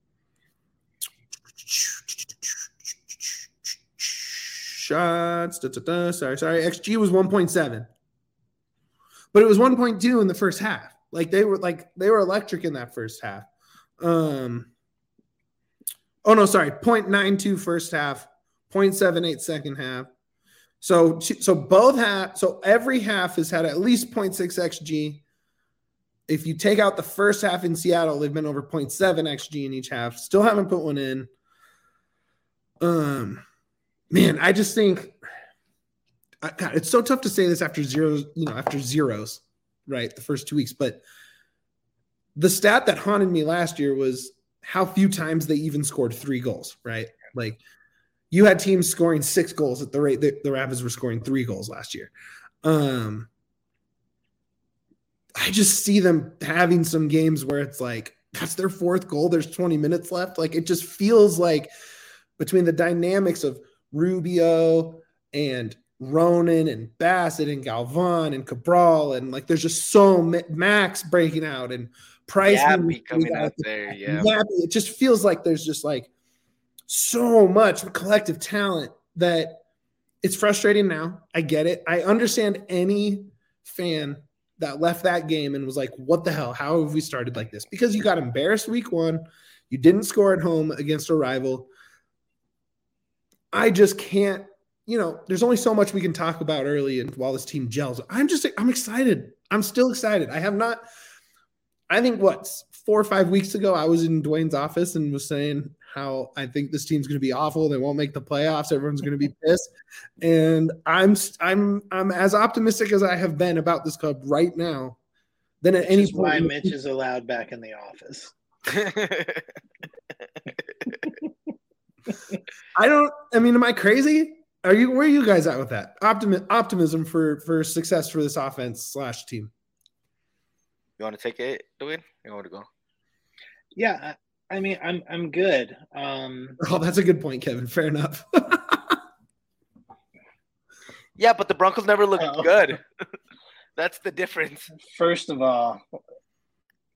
Shots. Da, da, da, sorry, sorry. X G was one point seven, but it was one point two in the first half. Like they were like they were electric in that first half. Um, oh no, sorry, zero point nine two first half, zero point seven eight second half. So so both half. So every half has had at least zero point six X G. If you take out the first half in Seattle, they've been over zero point seven X G in each half. Still haven't put one in. Um. Man, I just think, God, it's so tough to say this after zeros, you know, after zeros, right? The first two weeks. But the stat that haunted me last year was how few times they even scored three goals, right? Like you had teams scoring six goals at the rate that the Rapids were scoring three goals last year. Um, I just see them having some games where it's like, that's their fourth goal. There's twenty minutes left. Like it just feels like between the dynamics of Rubio and Ronan and Bassett and Galvan and Cabral and like there's just so Max breaking out and Price coming out there. Yeah, it just feels like there's just like so much collective talent that it's frustrating now. I get it. I understand any fan that left that game and was like, what the hell? How have we started like this? Because you got embarrassed week one. You didn't score at home against a rival. I just can't, you know, there's only so much we can talk about early and while this team gels. I'm just, I'm excited. I'm still excited. I have not, I think what, four or five weeks ago, I was in Dwayne's office and was saying how I think this team's going to be awful. They won't make the playoffs. Everyone's going to be pissed. And I'm, I'm, I'm as optimistic as I have been about this club right now than at Which any is point. Why Mitch is allowed back in the office. I don't, I mean, am I crazy? Are you, where are you guys at with that? Optimi- optimism for, for success for this offense slash team. You want to take it, Dwayne? You want to go? Yeah. I mean, I'm, I'm good. Um, oh, that's a good point, Kevin. Fair enough. Yeah, but the Broncos never looked oh. good. That's the difference. First of all,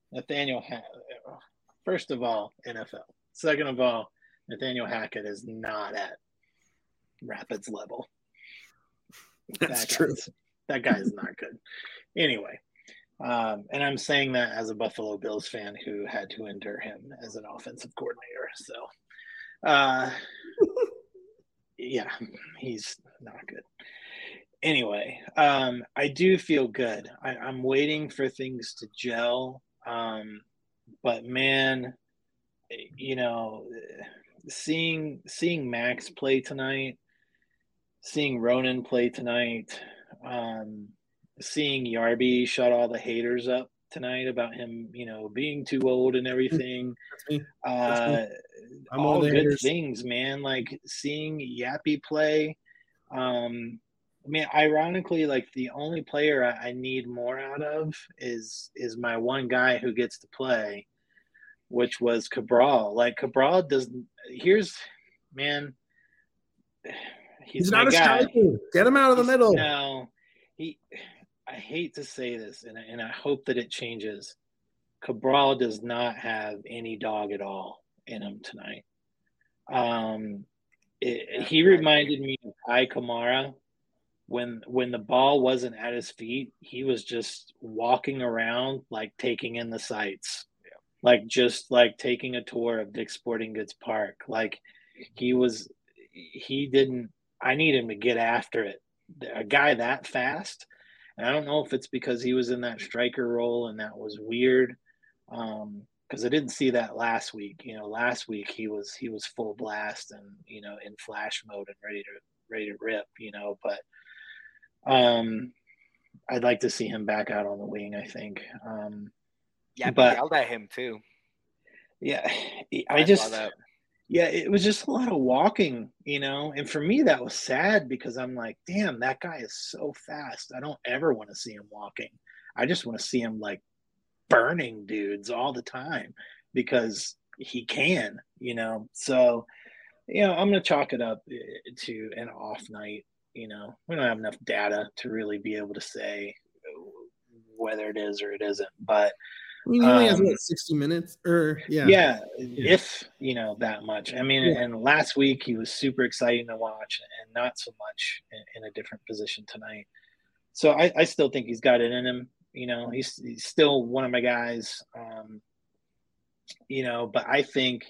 Nathaniel, ha- first of all, N F L. Second of all, Nathaniel Hackett is not at Rapids level. That's that true. That guy is not good. Anyway, um, and I'm saying that as a Buffalo Bills fan who had to endure him as an offensive coordinator. So, uh, yeah, he's not good. Anyway, um, I do feel good. I, I'm waiting for things to gel. Um, but man, you know, seeing seeing Max play tonight, seeing Ronan play tonight, um, seeing Yarby shut all the haters up tonight about him, you know, being too old and everything. That's me. That's me. uh, I'm all one of the good haters. things, man. Like seeing Yappy play. Um, I mean, ironically, like the only player I, I need more out of is is my one guy who gets to play, which was Cabral. Like Cabral doesn't. Here's, man. He's, He's my not a guy. striker. Get him out of the He's, middle. No, he. I hate to say this, and and I hope that it changes. Cabral does not have any dog at all in him tonight. Um, it, he reminded me of Kai Kamara. When when the ball wasn't at his feet, he was just walking around like taking in the sights, yeah. like just like taking a tour of Dick's Sporting Goods Park. Like he was, he didn't. I need him to get after it. A guy that fast, and I don't know if it's because he was in that striker role and that was weird, um, because I didn't see that last week. You know, last week he was he was full blast and you know in flash mode and ready to ready to rip. You know, but. Um, I'd like to see him back out on the wing. I think. Um, yeah, but I yelled at him too. Yeah, I, I just. That. Yeah, it was just a lot of walking, you know, and for me that was sad because I'm like, damn, that guy is so fast. I don't ever want to see him walking. I just want to see him like burning dudes all the time because he can, you know. So, you know, I'm gonna chalk it up to an off night. You know, we don't have enough data to really be able to say whether it is or it isn't. But I mean, he only um, has what, sixty minutes, or yeah, yeah, yeah, if you know that much. I mean, yeah. and last week he was super exciting to watch, and not so much in, in a different position tonight. So I, I still think he's got it in him. You know, he's he's still one of my guys. Um, you know, but I think.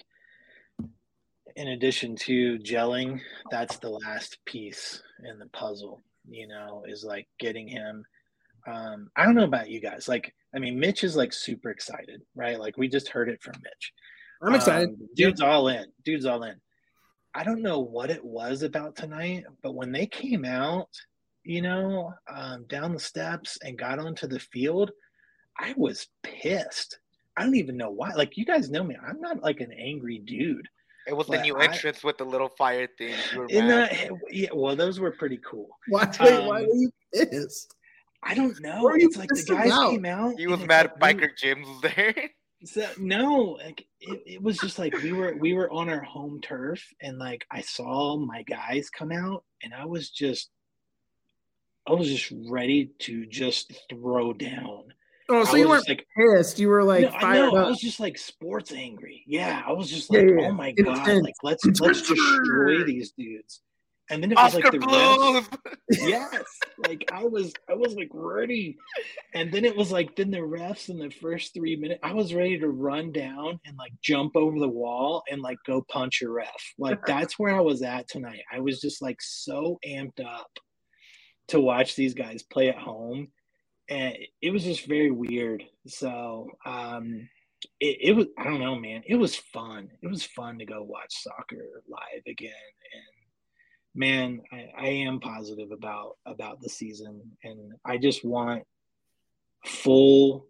In addition to gelling, that's the last piece in the puzzle, you know, is like getting him. Um, I don't know about you guys. Like, I mean, Mitch is like super excited, right? Like we just heard it from Mitch. I'm excited. Um, dude's all in. Dude's all in. I don't know what it was about tonight, but when they came out, you know, um, down the steps and got onto the field, I was pissed. I don't even know why. Like, you guys know me. I'm not like an angry dude. It was the new I, entrance with the little fire thing. You were in mad. that, yeah, well, those were pretty cool. Why, wait, Um, why were you pissed? I don't know. It's like the guys out? came out. He was mad like, Biker Jim was there. So, no, like it, it was just like we were we were on our home turf, and like I saw my guys come out, and I was just, I was just ready to just throw down. Oh, so you weren't like pissed. You were like no, fired no, up. I was just like sports angry. Yeah, I was just like, yeah, yeah. oh my Intense. god, like let's let's destroy these dudes. And then it Oscar was like the Blues. refs. Yes, like I was, I was like ready. And then it was like, then the refs in the first three minutes, I was ready to run down and like jump over the wall and like go punch a ref. Like that's where I was at tonight. I was just like so amped up to watch these guys play at home, and it was just very weird. So um, it, it was, I don't know, man. It was fun. It was fun to go watch soccer live again, and. Man, I, I am positive about about the season, and I just want full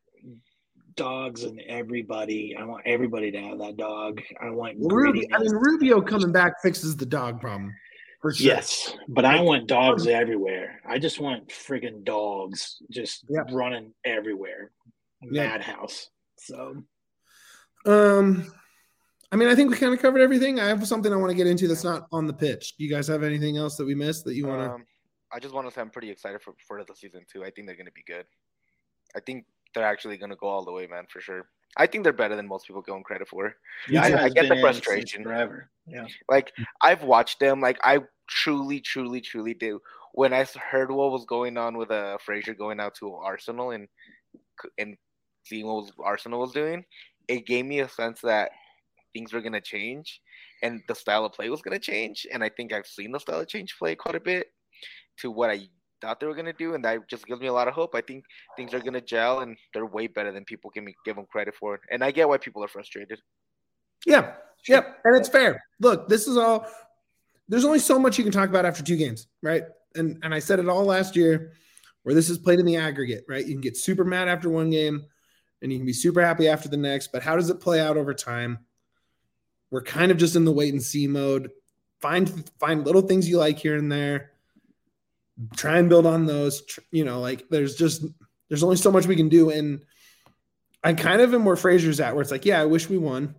dogs and everybody. I want everybody to have that dog. I want Rubio. I mean, Rubio coming back fixes the dog problem for sure. Yes, but I want dogs everywhere. I just want friggin' dogs just yep. running everywhere. Madhouse. Yep. So, um. I mean, I think we kind of covered everything. I have something I want to get into that's not on the pitch. Do you guys have anything else that we missed that you want to? Um, I just want to say I'm pretty excited for, for the season too. I think they're going to be good. I think they're actually going to go all the way, man, for sure. I think they're better than most people give them credit for. Yeah, I, I get the frustration. Forever. Yeah. Like, I've watched them. Like, I truly, truly, truly do. When I heard what was going on with uh, Frazier going out to Arsenal and and seeing what was, Arsenal was doing, it gave me a sense that things were going to change and the style of play was going to change. And I think I've seen the style of change play quite a bit to what I thought they were going to do. And that just gives me a lot of hope. I think things are going to gel and they're way better than people give, me, give them credit for. And I get why people are frustrated. Yeah. Yep. And it's fair. Look, this is all – there's only so much you can talk about after two games, right? And and I said it all last year where this is played in the aggregate, right? You can get super mad after one game and you can be super happy after the next, but how does it play out over time? We're kind of just in the wait and see mode. Find find little things you like here and there. Try and build on those. You know, like there's just there's only so much we can do. And I kind of am where Frazier's at, where it's like, yeah, I wish we won.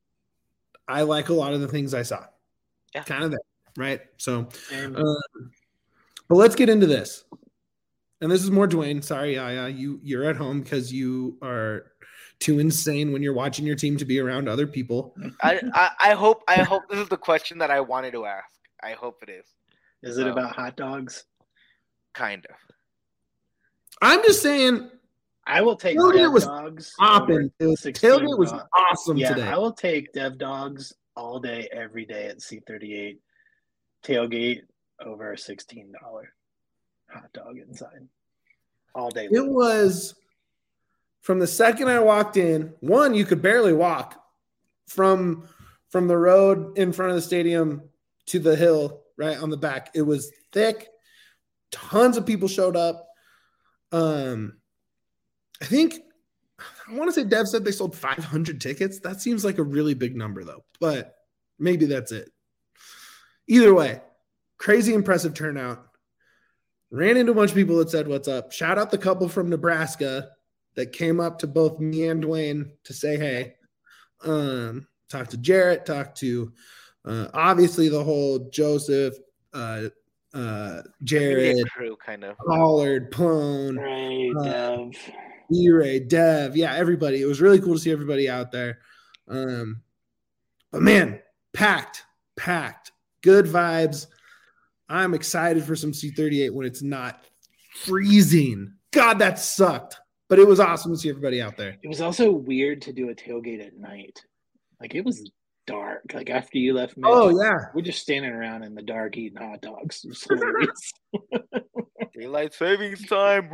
I like a lot of the things I saw. Yeah. Kind of that, right? So, uh, but let's get into this. And this is more Dwayne. Sorry, Yaya, you you're at home because you are too insane when you're watching your team to be around other people. I, I, I hope I hope this is the question that I wanted to ask. I hope it is. Is it um, about hot dogs? Kind of. I'm just saying. I will take tailgate Dev was Dogs. Popping. Tailgate was dogs. awesome yeah, today. I will take Dev Dogs all day, every day at C thirty-eight. Tailgate over a sixteen dollars hot dog inside. All day. It was from the second I walked in, one, you could barely walk from from the road in front of the stadium to the hill right on the back. It was thick. Tons of people showed up. Um, I think I want to say Dev said they sold five hundred tickets. That seems like a really big number though, but maybe that's it. Either way, crazy impressive turnout. Ran into a bunch of people that said, what's up? Shout out the couple from Nebraska that came up to both me and Dwayne to say, hey, um, talk to Jarrett, talk to uh, obviously the whole Joseph, uh, uh, Jared, crew, kind of Pollard, Plone, Ray, uh, Dev, E-Ray, Dev. Yeah, everybody. It was really cool to see everybody out there. Um, but man, packed, packed, good vibes. I'm excited for some C thirty-eight when it's not freezing. God, that sucked. But it was awesome to see everybody out there. It was also weird to do a tailgate at night. Like, it was dark. Like, after you left Mitch, oh, yeah. we're just standing around in the dark eating hot dogs. It was hilarious. Daylight savings time.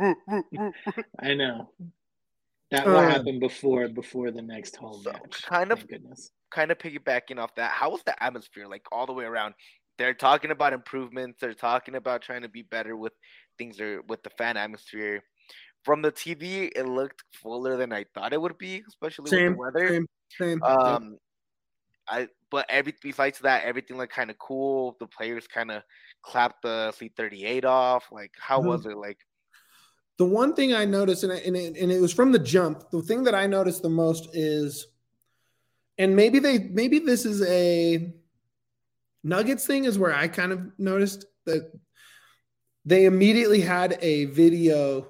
I know. That will uh, happen before before the next home so match. Kind of, Thank goodness. Kind of piggybacking off that, how was the atmosphere, like, all the way around? They're talking about improvements. They're talking about trying to be better with things or with the fan atmosphere. From the T V, it looked fuller than I thought it would be, especially same, with the weather. Same, same. Um, I but every besides that, everything looked kind of cool. The players kind of clapped the C thirty-eight off. Like, how mm-hmm. was it? Like, the one thing I noticed, and, I, and, it, and it was from the jump. The thing that I noticed the most is, and maybe they maybe this is a Nuggets thing is where I kind of noticed that they immediately had a video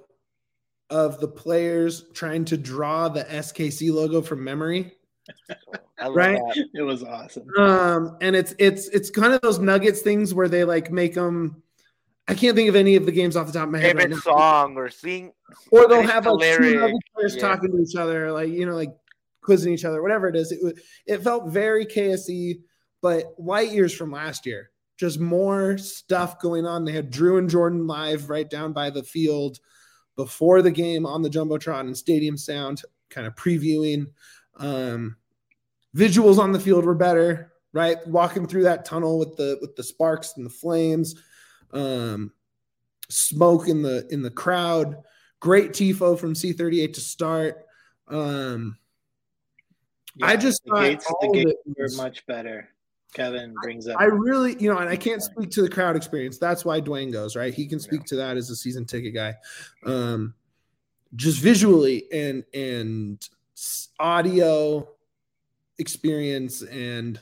of the players trying to draw the S K C logo from memory. Right? That. It was awesome. Um, and it's it's it's kind of those Nuggets things where they like make them. I can't think of any of the games off the top of my head right now. Song or sing, or they'll have like two Nuggets players yeah. talking to each other, like you know, like quizzing each other, whatever it is. It it felt very K S E. But light years from last year, just more stuff going on. They had Drew and Jordan live right down by the field before the game on the Jumbotron and Stadium Sound, kind of previewing. Um, visuals on the field were better, right? Walking through that tunnel with the with the sparks and the flames, um, smoke in the in the crowd. Great tifo from C thirty-eight to start. Um, yeah, I just the gates, the gates were much better. Kevin brings up. I really, you know, and I can't speak to the crowd experience. That's why Dwayne goes, right? He can speak yeah. to that as a season ticket guy. Um, just visually and and audio experience and,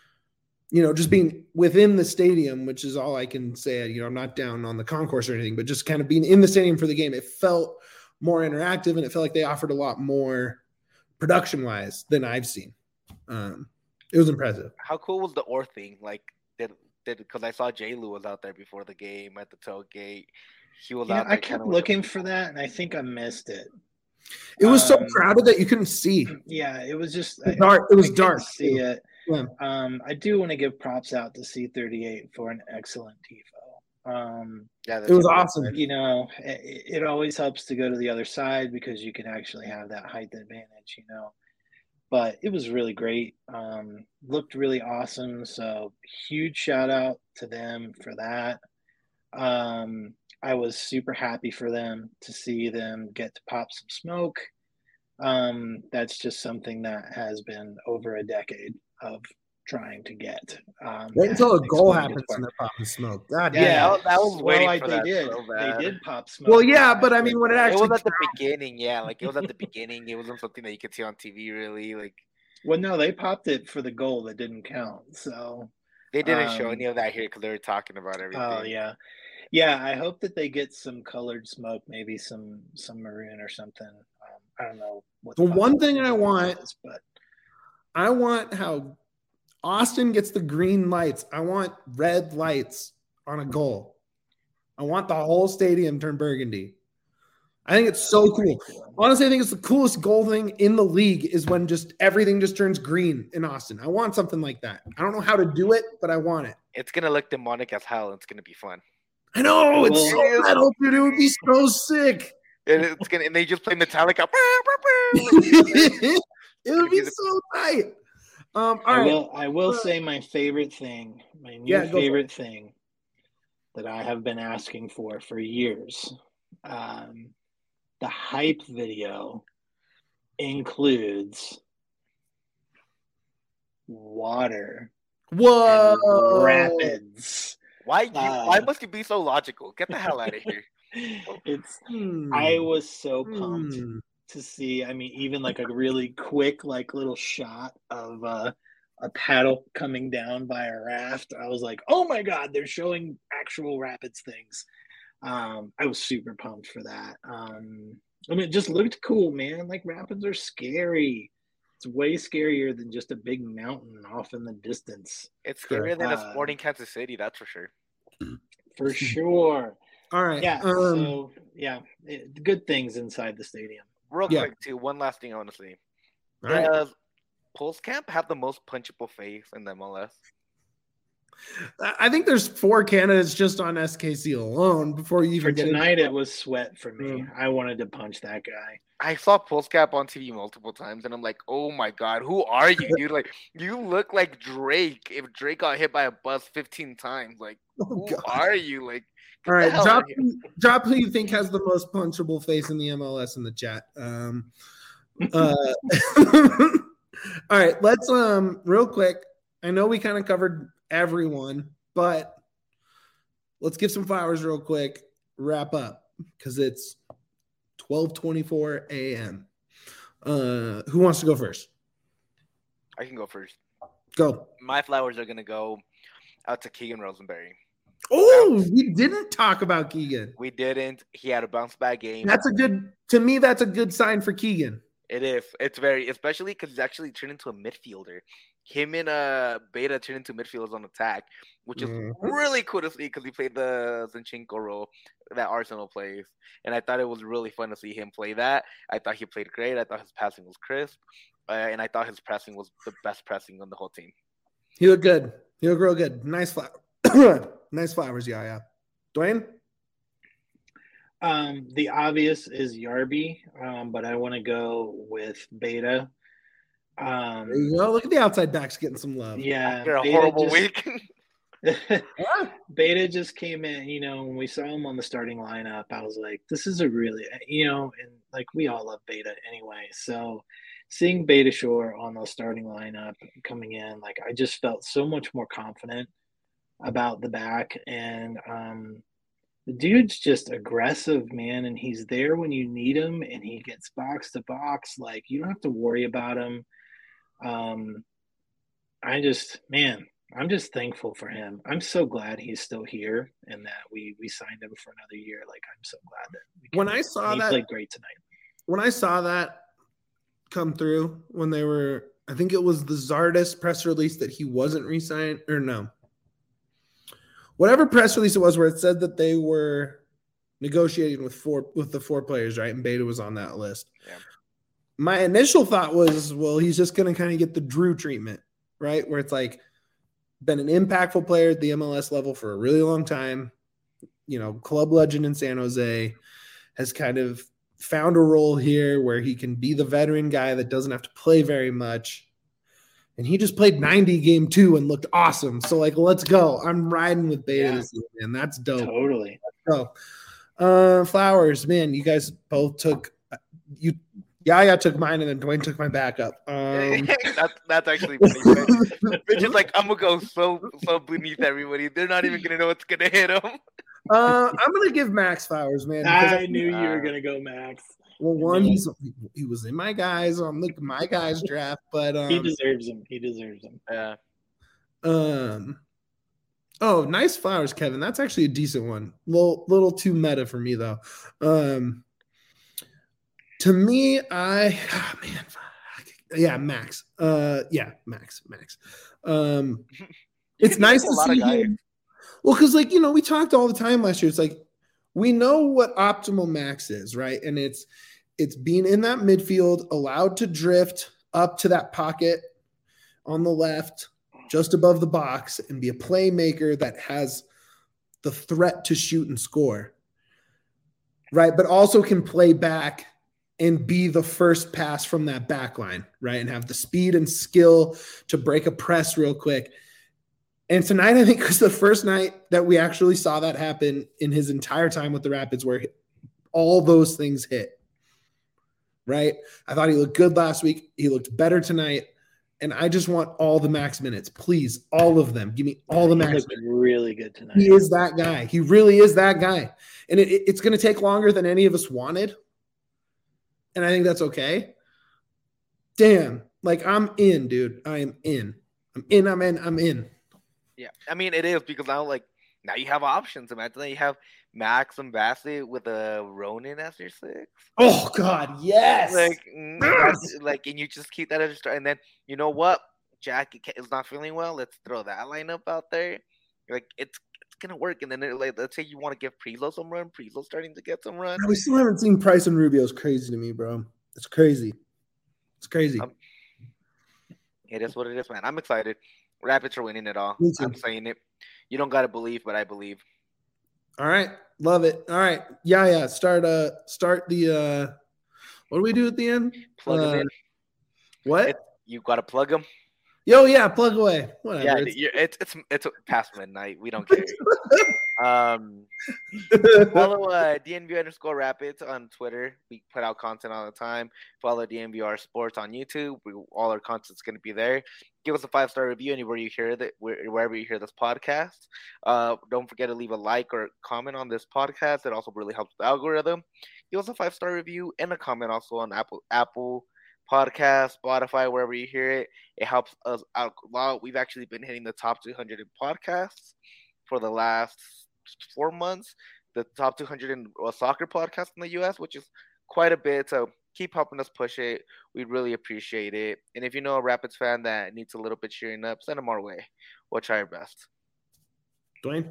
you know, just being within the stadium, which is all I can say. You know, I'm not down on the concourse or anything, but just kind of being in the stadium for the game. It felt more interactive, and it felt like they offered a lot more production-wise than I've seen. Um, it was impressive. How cool was the Or thing? Like, did did because I saw J. Lou was out there before the game at the tailgate. He was Yeah, out there. I kept looking for that, and I think I missed it. It was so Um, crowded that you couldn't see. Yeah, it was just It was dark. It was I dark. couldn't see it. Yeah. Um, I do want to give props out to C thirty-eight for an excellent tifo. Um, Yeah, It was awesome. you know, it, it always helps to go to the other side because you can actually have that height advantage, you know. But it was really great. Um, looked really awesome. So huge shout out to them for that. Um, I was super happy for them to see them get to pop some smoke. Um, that's just something that has been over a decade of trying to get. Um, Wait until a at goal Explosion happens Park. and they're popping smoke. God Yeah, damn. I was- I was well, waiting like for they that did. so they bad. did pop smoke. Well, yeah, but I mean, when it It actually was at the beginning, yeah. Like it was at the beginning. It wasn't something that you could see on T V, really. Like Well, no, they popped it for the goal that didn't count. So, they didn't show Um, any of that here because they were talking about everything. oh yeah, yeah. I hope that they get some colored smoke, maybe some some maroon or something. Um, I don't know what The one fuck thing I want- is, but I want how Austin gets the green lights. I want red lights on a goal. I want the whole stadium turn burgundy. I think it's so cool. Honestly, I think it's the coolest goal thing in the league is when just everything just turns green in Austin. I want something like that. I don't know how to do it, but I want it. It's gonna look demonic as hell. It's gonna be fun. I know it's Well, so metal, dude. It would be so sick. And it's gonna and they just play Metallica. It would be so tight. Um, all I right. will. I will say my favorite thing, my new Yeah, go for it. favorite thing that I have been asking for for years. Um, the hype video includes water Whoa. and rapids. Why you? Uh, why must you be so logical? Get the hell out of here. It's. Hmm. I was so pumped Hmm. to see. I mean, even like a really quick, like little shot of uh, a paddle coming down by a raft. I was like, oh my god, they're showing actual rapids things. Um, I was super pumped for that. Um, I mean, it just looked cool, man. Like rapids are scary. It's way scarier than just a big mountain off in the distance, It's Sure. scarier than a Uh, Sporting Kansas City, that's for sure. for sure. All right. Yeah. Um, so yeah, it, good things inside the stadium. Real Yeah. quick, too. One last thing I want to say. all right. Does Pulse Camp have the most punchable face in the M L S? I think there's four candidates just on S K C alone before you For even get into tonight, it was sweat for me. Mm. I wanted to punch that guy. I saw Pulse Cap on T V multiple times, and I'm like, oh my god, who are you, dude? Like, you look like Drake if Drake got hit by a bus fifteen times. Like, Oh, who God. are you? Like, get All right, the hell drop, out of here. drop who you think has the most punchable face in the M L S in the chat. Um, uh, all right, let's um real quick. I know we kind of covered everyone, but let's give some flowers real quick. Wrap up because it's twelve twenty-four a.m. Uh, who wants to go first? I can go first. Go. My flowers are gonna go out to Keegan Rosenberry. Oh, we didn't talk about Keegan. We didn't. He had a bounce back game. That's a good, to me, that's a good sign for Keegan. It is. It's very, especially because he's actually turned into a midfielder. Him and uh Beta turned into midfielders on attack, which is Mhm. really cool to see because he played the Zinchenko role that Arsenal plays, and I thought it was really fun to see him play that. I thought he played great. I thought his passing was crisp, uh, and I thought his pressing was the best pressing on the whole team. He looked good. He looked real good. Nice flower. Nice flowers, yeah, yeah. Dwayne? Um, the obvious is Yarby, um, but I want to go with Beta. Um, There you go. Look at the outside backs getting some love. yeah, After a Beta horrible just- week. Ah, Beta just came in, you know, when we saw him on the starting lineup, I was like, this is a really, you know, and like we all love Beta anyway. So seeing Beta Shore on the starting lineup coming in, like I just felt so much more confident about the back. And um, the dude's just aggressive, man. And he's there when you need him and he gets box to box. Like you don't have to worry about him. Um, I just, man, I'm just thankful for him. I'm so glad he's still here and that we we signed him for another year. Like, I'm so glad that we when I saw he that played great tonight. When I saw that come through, when they were, I think it was the Zardes press release that he wasn't re-signed, or no, whatever press release it was where it said that they were negotiating with four with the four players, right? And Beta was on that list. Yeah. My initial thought was, well, he's just going to kind of get the Drew treatment, right? Where it's like, been an impactful player at the M L S level for a really long time, you know, club legend in San Jose, has kind of found a role here where he can be the veteran guy that doesn't have to play very much. And he just played ninety game two and looked awesome. So, like, let's go. I'm riding with Beta Yeah. this year, man. That's dope. Totally. Let's go. Uh, Flowers, man, you guys both took you. Yaya took mine, and then Dwayne took my backup. Um, that's that's actually pretty good. They're just like, I'm gonna go so so beneath everybody. They're not even gonna know what's gonna hit them. uh, I'm gonna give Max Flowers, man. I knew you were gonna go Max. Well, one, he's he was in my guys on the my guys draft, but um, he deserves him. He deserves him. Yeah. Um. Oh, nice Flowers, Kevin. That's actually a decent one. Little little too meta for me though. Um. To me, I oh man, yeah, Max. Uh, yeah, Max, Max. Um, it's nice to see him. Well, because like you know, we talked all the time last year. It's like we know what optimal Max is, right? And it's it's being in that midfield, allowed to drift up to that pocket on the left, just above the box, and be a playmaker that has the threat to shoot and score, right? But also can play back and be the first pass from that back line, right? And have the speed and skill to break a press real quick. And tonight, I think, was the first night that we actually saw that happen in his entire time with the Rapids, where all those things hit, right? I thought he looked good last week. He looked better tonight. And I just want all the Max minutes. Please, all of them. Give me all the Max minutes. Really good tonight. He is that guy. He really is that guy. And it, it, it's going to take longer than any of us wanted. And I think that's okay. Damn. Like, I'm in, dude. I am in. I'm in, I'm in, I'm in. Yeah. I mean, it is because now, like, now you have options. Imagine that you have Max and Bassett with a Ronan as your six. Oh, God, yes. Like, yes. like, and you just keep that as a start. And then, you know what? Jack is not feeling well. Let's throw that lineup out there. Like, it's gonna work, and then it, like, let's say you want to give Priso some run. Priso's starting to get some run. We still haven't seen Price and Rubio. It's crazy to me, bro. It's crazy. It's crazy. Um, it is what it is, man. I'm excited. Rapids are winning it all. I'm saying it. You don't gotta believe, but I believe. All right, love it. All right, yeah, yeah. Start uh, start the uh, what do we do at the end? Plug uh, them in. What? It, you gotta plug them. Yo, yeah, plug away. Whatever. Yeah, it's it's, it's it's it's past midnight. We don't care. um, follow uh, D N V underscore Rapids on Twitter. We put out content all the time. Follow D N V R Sports on YouTube. We, all our content's gonna be there. Give us a five star review anywhere you hear that, wherever you hear this podcast. Uh, don't forget to leave a like or comment on this podcast. It also really helps the algorithm. Give us a five star review and a comment also on Apple Apple. Podcast, Spotify, wherever you hear it. It helps us out a lot. We've actually been hitting the top two hundred in podcasts for the last four months. The top two hundred in uh, soccer podcasts in the U S, which is quite a bit. So keep helping us push it. We'd really appreciate it. And if you know a Rapids fan that needs a little bit cheering up, send them our way. We'll try our best. Dwayne?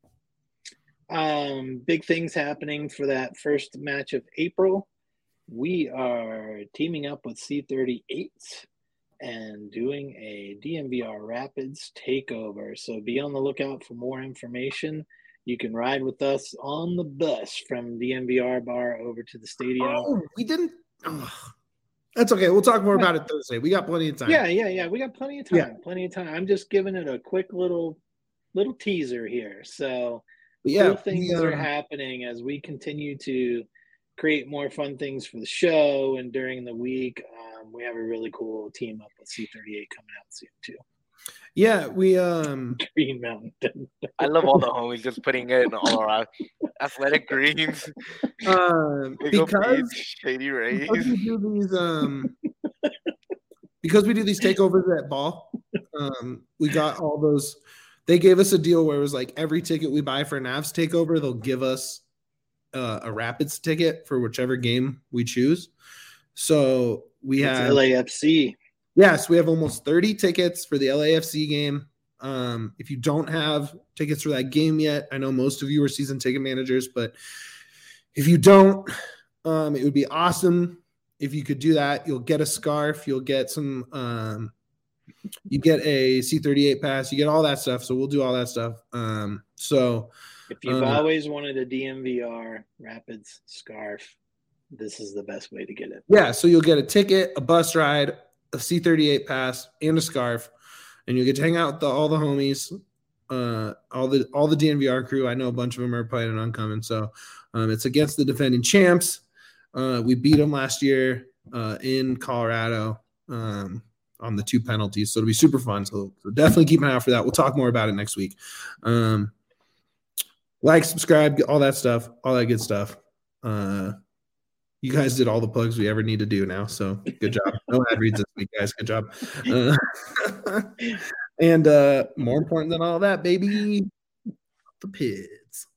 Um, big things happening for that first match of April. We are teaming up with C thirty-eight and doing a D N V R Rapids takeover. So be on the lookout for more information. You can ride with us on the bus from D N V R bar over to the stadium. Oh, we didn't. Oh, that's okay. We'll talk more about it Thursday. We got plenty of time. Yeah, yeah, yeah. We got plenty of time. Yeah. Plenty of time. I'm just giving it a quick little little teaser here. So But yeah, cool things we, uh, are happening as we continue to create more fun things for the show, and during the week um, we have a really cool team up with C thirty-eight coming out soon too. Yeah, we um Green Mountain. I love all the homies just putting it in all around. Athletic Greens, um because, Shady Rays. because we do these um because we do these takeovers at ball Um, we got all those. They gave us a deal where it was like every ticket we buy for Navs Takeover, they'll give us uh, a Rapids ticket for whichever game we choose. So we It's have L A F C. Yes, we have almost thirty tickets for the L A F C game. Um, if you don't have tickets for that game yet, I know most of you are season ticket managers, but if you don't, um, it would be awesome if you could do that. You'll get a scarf, you'll get some, um, you get a C thirty-eight pass, you get all that stuff. So we'll do all that stuff. Um, so if you've uh, always wanted a D N V R Rapids scarf, this is the best way to get it. Yeah, so you'll get a ticket, a bus ride, a C thirty-eight pass, and a scarf, and you get to hang out with the, all the homies, uh, all the all the D N V R crew. I know a bunch of them are planning on coming, so um, it's against the defending champs. Uh, we beat them last year uh, in Colorado um, on the two penalties, so it'll be super fun. So, so definitely keep an eye out for that. We'll talk more about it next week. Um, like, subscribe, all that stuff, all that good stuff. Uh, You guys did all the plugs we ever need to do now, so good job. No ad reads this week, guys. Good job. Uh, and uh, more important than all that, baby, the Pids.